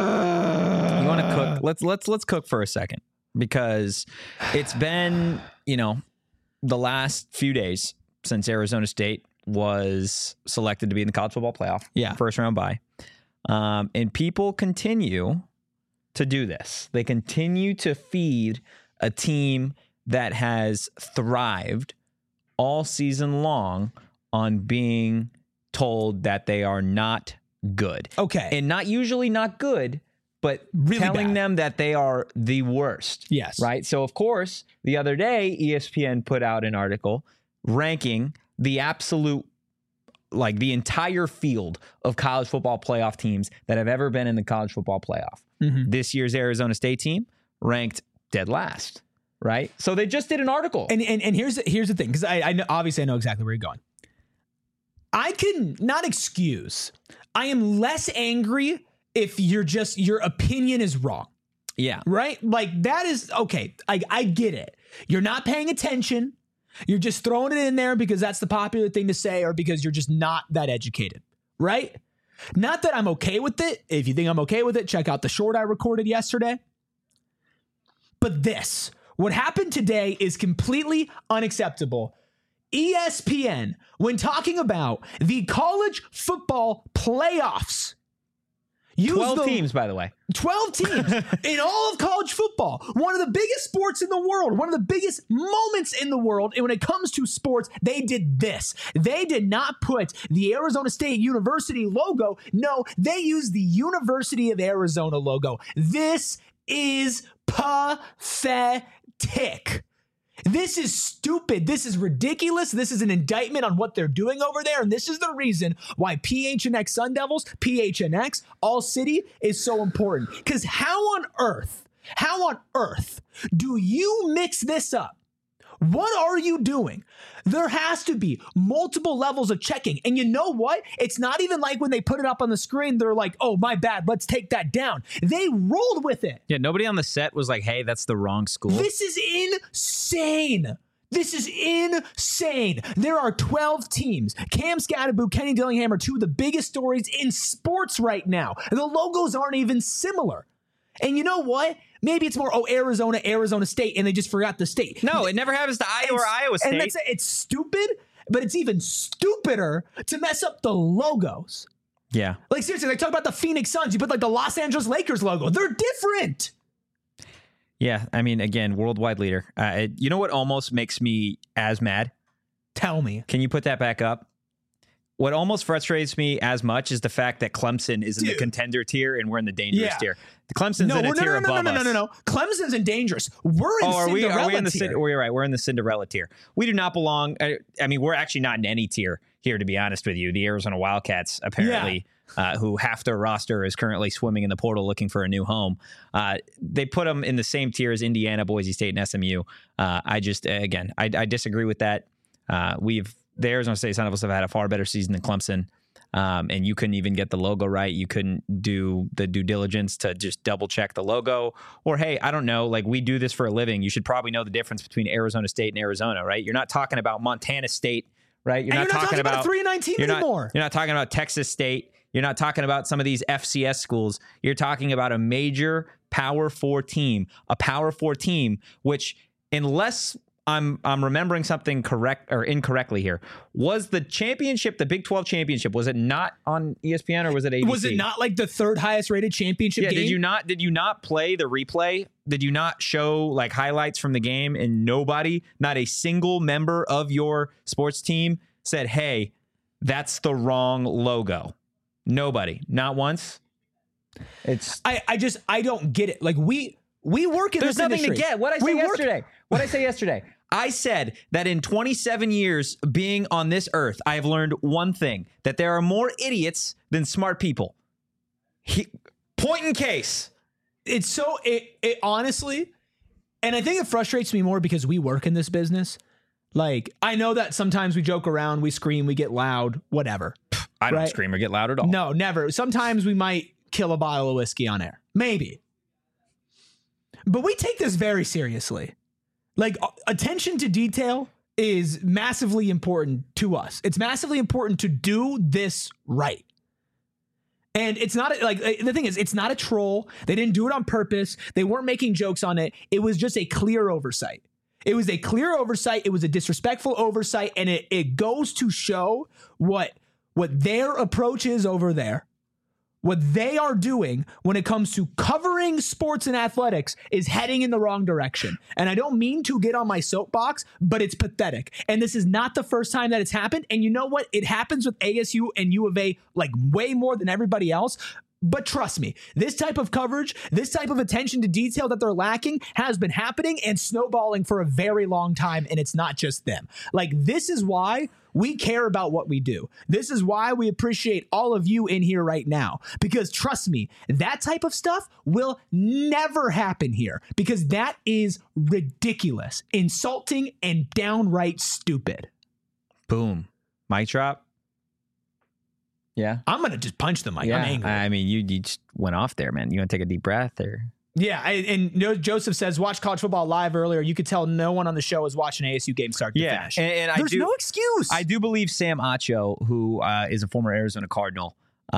[SPEAKER 2] want to cook? Let's cook for a second, because it's been, the last few days since Arizona State was selected to be in the college football playoff.
[SPEAKER 1] Yeah.
[SPEAKER 2] First round bye. And people continue to do this. They continue to feed a team that has thrived all season long on being told that they are not good.
[SPEAKER 1] Okay.
[SPEAKER 2] And not usually not good, but
[SPEAKER 1] Really
[SPEAKER 2] telling
[SPEAKER 1] bad.
[SPEAKER 2] them that they are the worst.
[SPEAKER 1] Yes.
[SPEAKER 2] Right? So, of course, the other day, ESPN put out an article ranking the absolute, like the entire field of college football playoff teams that have ever been in the college football playoff.
[SPEAKER 1] Mhm.
[SPEAKER 2] This year's Arizona State team ranked dead last, right? So they just did an article.
[SPEAKER 1] And here's the thing, because I know, obviously I know exactly where you're going. I can not excuse. I am less angry if your opinion is wrong,
[SPEAKER 2] yeah.
[SPEAKER 1] right? Like that is okay. I get it. You're not paying attention. You're just throwing it in there because that's the popular thing to say, or because you're just not that educated, right? Not that I'm okay with it. If you think I'm okay with it, check out the short I recorded yesterday. But what happened today is completely unacceptable. ESPN, when talking about the college football playoffs,
[SPEAKER 2] 12 teams, by the way.
[SPEAKER 1] 12 teams in all of college football. One of the biggest sports in the world, one of the biggest moments in the world. And when it comes to sports, they did this. They did not put the Arizona State University logo. No, they used the University of Arizona logo. This is pathetic. This is stupid. This is ridiculous. This is an indictment on what they're doing over there. And this is the reason why PHNX Sun Devils, PHNX, All City is so important. Because how on earth do you mix this up? What are you doing? There has to be multiple levels of checking. And you know what? It's not even like when they put it up on the screen, they're like, oh, my bad, let's take that down. They rolled with it.
[SPEAKER 2] Yeah, nobody on the set was like, hey, that's the wrong school.
[SPEAKER 1] This is insane. This is insane. There are 12 teams. Cam Scatterboot, Kenny Dillingham are two of the biggest stories in sports right now. The logos aren't even similar. And you know what? Maybe it's more, Arizona State, and they just forgot the state.
[SPEAKER 2] No, it never happens to Iowa or Iowa State.
[SPEAKER 1] And that's it. It's stupid, but it's even stupider to mess up the logos.
[SPEAKER 2] Yeah.
[SPEAKER 1] Like, seriously, they talk about the Phoenix Suns. You put, like, the Los Angeles Lakers logo. They're different.
[SPEAKER 2] Yeah, I mean, again, worldwide leader. You know what almost makes me as mad?
[SPEAKER 1] Tell me.
[SPEAKER 2] Can you put that back up? What almost frustrates me as much is the fact that Clemson is in the contender tier and we're in the dangerous tier. Clemson's in a tier above us.
[SPEAKER 1] No. Clemson's in dangerous. We're in Cinderella
[SPEAKER 2] are we in the
[SPEAKER 1] tier.
[SPEAKER 2] We're right. We're in the Cinderella tier. We do not belong. I mean, we're actually not in any tier here, to be honest with you. The Arizona Wildcats, apparently, who half their roster is currently swimming in the portal looking for a new home. They put them in the same tier as Indiana, Boise State, and SMU. I disagree with that. The Arizona State Sun Devils have had a far better season than Clemson. And you couldn't even get the logo right. You couldn't do the due diligence to just double check the logo. Or, hey, I don't know, like we do this for a living. You should probably know the difference between Arizona State and Arizona, right? You're not talking about Montana State, right? You're not talking about
[SPEAKER 1] a 3-9 team anymore.
[SPEAKER 2] You're not talking about Texas State. You're not talking about some of these FCS schools. You're talking about a major Power 4 team, which, unless I'm remembering something correct or incorrectly here, was the championship, the Big 12 championship, was it not on ESPN or was it ABC?
[SPEAKER 1] Was it not like the third highest rated championship game?
[SPEAKER 2] Did you not play the replay? Did you not show like highlights from the game, and not a single member of your sports team said, hey, that's the wrong logo? Nobody, not once.
[SPEAKER 1] I don't get it. Like we work in
[SPEAKER 2] There's
[SPEAKER 1] this
[SPEAKER 2] nothing
[SPEAKER 1] industry.
[SPEAKER 2] to get. What I say yesterday? I said that in 27 years being on this earth, I have learned one thing, that there are more idiots than smart people. Point in case.
[SPEAKER 1] It's so, it honestly, and I think it frustrates me more because we work in this business. Like, I know that sometimes we joke around, we scream, we get loud, whatever.
[SPEAKER 2] I don't scream or get loud at all.
[SPEAKER 1] No, never. Sometimes we might kill a bottle of whiskey on air. Maybe. But we take this very seriously. Like, attention to detail is massively important to us. It's massively important to do this right. And it's not like, the thing is, it's not a troll. They didn't do it on purpose. They weren't making jokes on it. It was just a clear oversight. It was a clear oversight. It was a disrespectful oversight. And it goes to show what their approach is over there, what they are doing when it comes to covering sports and athletics is heading in the wrong direction. And I don't mean to get on my soapbox, but it's pathetic. And this is not the first time that it's happened. And you know what? It happens with ASU and U of A like way more than everybody else. But trust me, this type of coverage, this type of attention to detail that they're lacking has been happening and snowballing for a very long time. And it's not just them. Like, this is why we care about what we do. This is why we appreciate all of you in here right now. Because trust me, that type of stuff will never happen here. Because that is ridiculous, insulting, and downright stupid.
[SPEAKER 2] Boom. Mic drop. Yeah.
[SPEAKER 1] I'm going to just punch the mic. I'm angry.
[SPEAKER 2] I mean, you just went off there, man. You want to take a deep breath or?
[SPEAKER 1] Yeah. And Joseph says, watch college football live earlier. You could tell no one on the show was watching ASU game start to finish.
[SPEAKER 2] And
[SPEAKER 1] there's no excuse.
[SPEAKER 2] I do believe Sam Acho, who is a former Arizona Cardinal,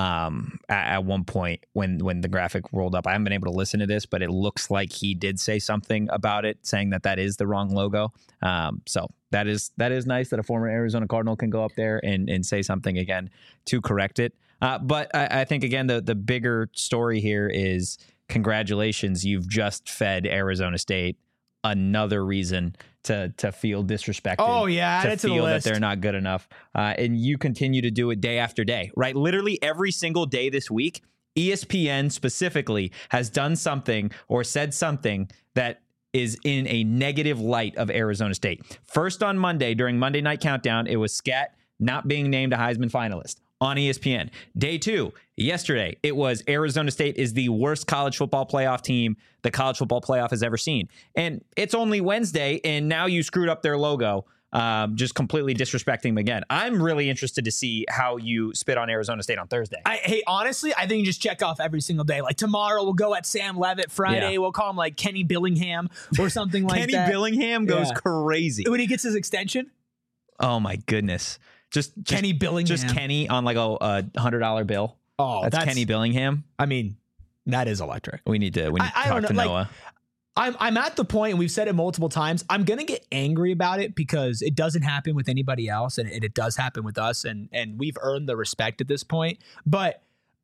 [SPEAKER 2] at one point when the graphic rolled up, I haven't been able to listen to this, but it looks like he did say something about it, saying that is the wrong logo. So that is nice that a former Arizona Cardinal can go up there and say something again to correct it. But I think, again, the bigger story here is congratulations. You've just fed Arizona State another reason to feel disrespected.
[SPEAKER 1] Oh, yeah.
[SPEAKER 2] To feel that they're not good enough. And you continue to do it day after day, right? Literally every single day this week, ESPN specifically has done something or said something that is in a negative light of Arizona State. First on Monday, during Monday Night Countdown, it was Scat not being named a Heisman finalist on ESPN. Day 2, yesterday, it was Arizona State is the worst college football playoff team the college football playoff has ever seen. And it's only Wednesday, and now you screwed up their logo, just completely disrespecting them again. I'm really interested to see how you spit on Arizona State on Thursday.
[SPEAKER 1] Hey, honestly, I think you just check off every single day. Like, tomorrow we'll go at Sam Levitt. Friday we'll call him like Kenny Billingham or something like that.
[SPEAKER 2] Kenny Billingham goes crazy.
[SPEAKER 1] When he gets his extension?
[SPEAKER 2] Oh, my goodness. Just
[SPEAKER 1] Kenny Billingham.
[SPEAKER 2] Just Kenny on like a $100 bill.
[SPEAKER 1] Oh,
[SPEAKER 2] that's Kenny Billingham.
[SPEAKER 1] I mean, that is electric.
[SPEAKER 2] We need to talk to Noah.
[SPEAKER 1] I'm at the point, and we've said it multiple times, I'm going to get angry about it because it doesn't happen with anybody else, and it does happen with us, and we've earned the respect at this point. But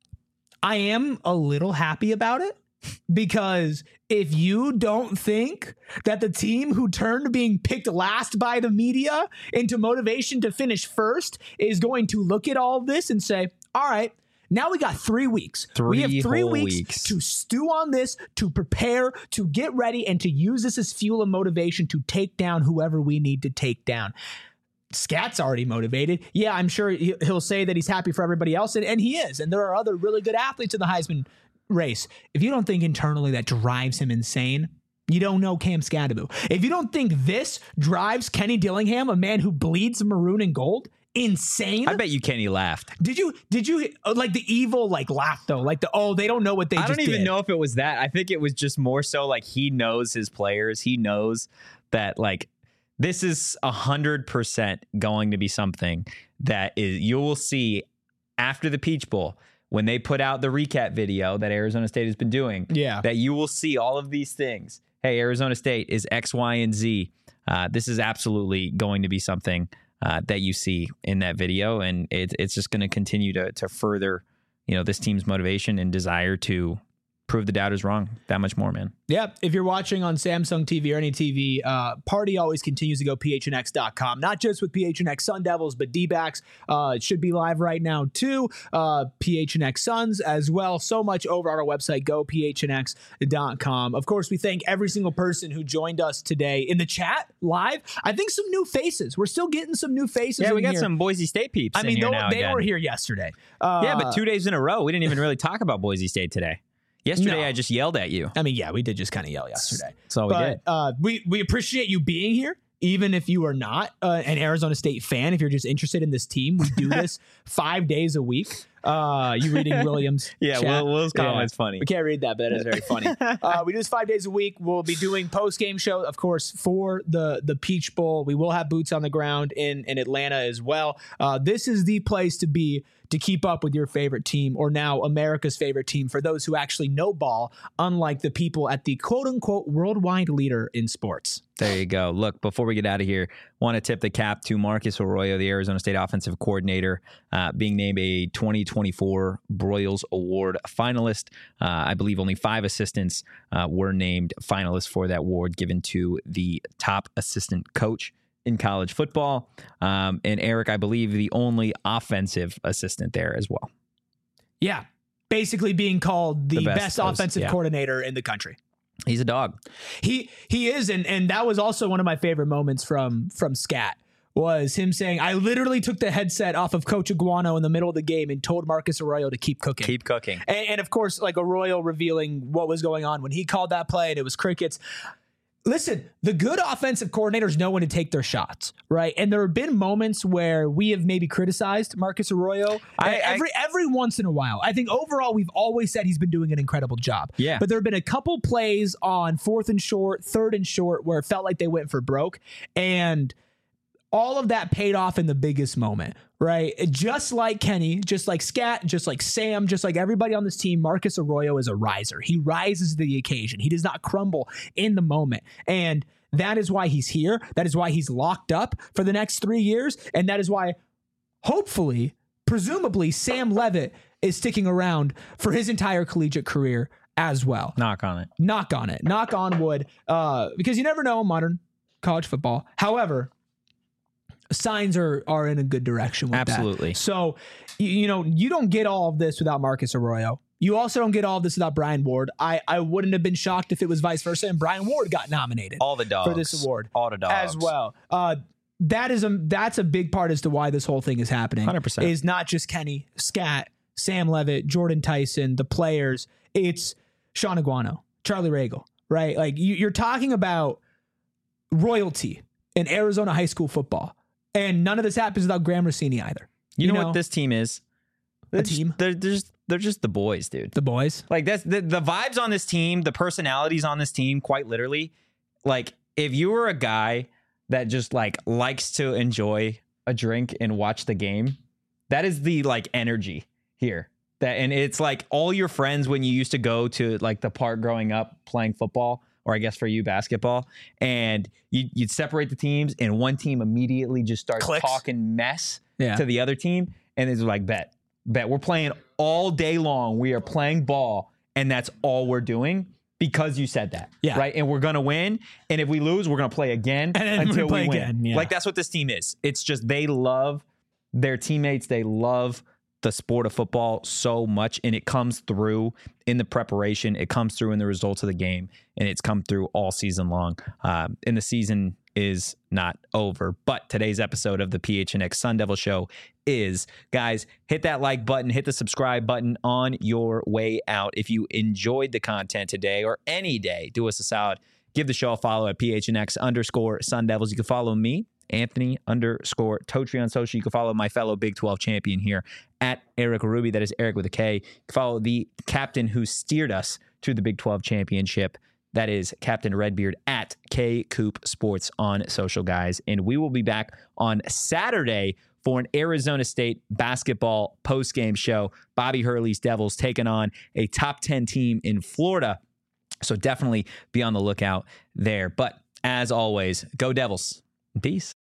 [SPEAKER 1] I am a little happy about it because if you don't think that the team who turned being picked last by the media into motivation to finish first is going to look at all of this and say, all right, now we got 3 weeks. We have 3 weeks to stew on this, to prepare, to get ready, and to use this as fuel and motivation to take down whoever we need to take down. Scat's already motivated. Yeah, I'm sure he'll say that he's happy for everybody else, and he is. And there are other really good athletes in the Heisman race. If you don't think internally that drives him insane, you don't know Cam Scadaboo. If you don't think this drives Kenny Dillingham, a man who bleeds maroon and gold, insane.
[SPEAKER 2] I bet you Kenny laughed.
[SPEAKER 1] Did you like the evil laugh though? Like they don't know what they just did.
[SPEAKER 2] I don't even know if it was that. I think it was just more so like he knows his players. He knows that like this is 100% going to be something that is you will see after the Peach Bowl when they put out the recap video that Arizona State has been doing.
[SPEAKER 1] Yeah.
[SPEAKER 2] That you will see all of these things. Hey, Arizona State is X, Y, and Z. This is absolutely going to be something that you see in that video, and it's just going to continue to further, this team's motivation and desire to prove the doubters wrong that much more, man.
[SPEAKER 1] Yeah. If you're watching on Samsung TV or any TV, party always continues to go phnx.com, not just with PHNX Sun Devils, but D-backs. It should be live right now too. PHNX Suns as well. So much over on our website, go phnx.com. Of course, we thank every single person who joined us today in the chat live. I think some new faces. We're still getting some new faces.
[SPEAKER 2] Yeah, we got
[SPEAKER 1] here.
[SPEAKER 2] Some Boise State peeps. I mean,
[SPEAKER 1] they were here yesterday.
[SPEAKER 2] Yeah, but 2 days in a row, we didn't even really talk about Boise State today. Yesterday, I just yelled at you.
[SPEAKER 1] I mean, yeah, we did just kind of yell yesterday.
[SPEAKER 2] That's all we
[SPEAKER 1] did. We appreciate you being here, even if you are not an Arizona State fan. If you're just interested in this team, we do this 5 days a week. You reading Williams?
[SPEAKER 2] Yeah,
[SPEAKER 1] chat?
[SPEAKER 2] Will's comment's funny.
[SPEAKER 1] We can't read that, but that is very funny. We do this 5 days a week. We'll be doing post-game show, of course, for the Peach Bowl. We will have boots on the ground in Atlanta as well. This is the place to be to keep up with your favorite team, or now America's favorite team, for those who actually know ball, unlike the people at the quote-unquote worldwide leader in sports.
[SPEAKER 2] There you go. Look, before we get out of here, want to tip the cap to Marcus Arroyo, the Arizona State offensive coordinator, being named a 2024 Broyles Award finalist. I believe only 5 assistants were named finalists for that award, given to the top assistant coach in college football. And Eric, I believe the only offensive assistant there as well.
[SPEAKER 1] Yeah. Basically being called the best offensive coordinator in the country.
[SPEAKER 2] He's a dog.
[SPEAKER 1] He is, and that was also one of my favorite moments from Scat, was him saying, I literally took the headset off of Coach Iguano in the middle of the game and told Marcus Arroyo to keep cooking.
[SPEAKER 2] Keep cooking.
[SPEAKER 1] And of course, like Arroyo revealing what was going on when he called that play and it was crickets. Listen, the good offensive coordinators know when to take their shots, right? And there have been moments where we have maybe criticized Marcus Arroyo every once in a while. I think overall we've always said he's been doing an incredible job.
[SPEAKER 2] Yeah.
[SPEAKER 1] But there have been a couple plays on 4th and short, 3rd and short where it felt like they went for broke, and all of that paid off in the biggest moment, right? Just like Kenny, just like Scat, just like Sam, just like everybody on this team, Marcus Arroyo is a riser. He rises to the occasion. He does not crumble in the moment. And that is why he's here. That is why he's locked up for the next 3 years. And that is why, hopefully, presumably, Sam Leavitt is sticking around for his entire collegiate career as well.
[SPEAKER 2] Knock on it.
[SPEAKER 1] Knock on it. Knock on wood. Because you never know in modern college football. However, signs are in a good direction with
[SPEAKER 2] Absolutely.
[SPEAKER 1] that. So, you don't get all of this without Marcus Arroyo. You also don't get all of this without Brian Ward. I wouldn't have been shocked if it was vice versa and Brian Ward got nominated
[SPEAKER 2] All the dogs.
[SPEAKER 1] for this award.
[SPEAKER 2] All the dogs.
[SPEAKER 1] As well. That's a big part as to why this whole thing is happening.
[SPEAKER 2] 100%.
[SPEAKER 1] Is not just Kenny, Scat, Sam Leavitt, Jordan Tyson, the players. It's Sean Iguano, Charlie Ragle, right? Like you're talking about royalty in Arizona high school football. And none of this happens without Graham Rossini either.
[SPEAKER 2] You know what this team is?
[SPEAKER 1] A team?
[SPEAKER 2] They're just the boys, dude.
[SPEAKER 1] The boys.
[SPEAKER 2] Like that's the vibes on this team, the personalities on this team, quite literally. Like if you were a guy that just like likes to enjoy a drink and watch the game, that is the like energy here. And it's like all your friends when you used to go to like the park growing up playing football, or I guess for you basketball, and you'd separate the teams and one team immediately just starts talking mess to the other team. And it's like, bet we're playing all day long. We are playing ball and that's all we're doing because you said that. Yeah. Right. And we're going to win. And if we lose, we're going to play again until we win. Again, yeah. Like that's what this team is. It's just, they love their teammates. They love the sport of football so much, and it comes through in the preparation. It comes through in the results of the game, and it's come through all season long. And the season is not over, but today's episode of the PHNX Sun Devil Show is, guys, hit that like button, hit the subscribe button on your way out. If you enjoyed the content today or any day, do us a solid. Give the show a follow at PHNX_Sun Devils. You can follow me, Anthony_Totri on social. You can follow my fellow Big 12 champion here at Eric Ruby. That is Eric with a K. You can follow the captain who steered us to the Big 12 championship. That is Captain Redbeard at K Coop Sports on social, guys. And we will be back on Saturday for an Arizona State basketball postgame show. Bobby Hurley's Devils taking on a top 10 team in Florida. So definitely be on the lookout there. But as always, go Devils. Peace.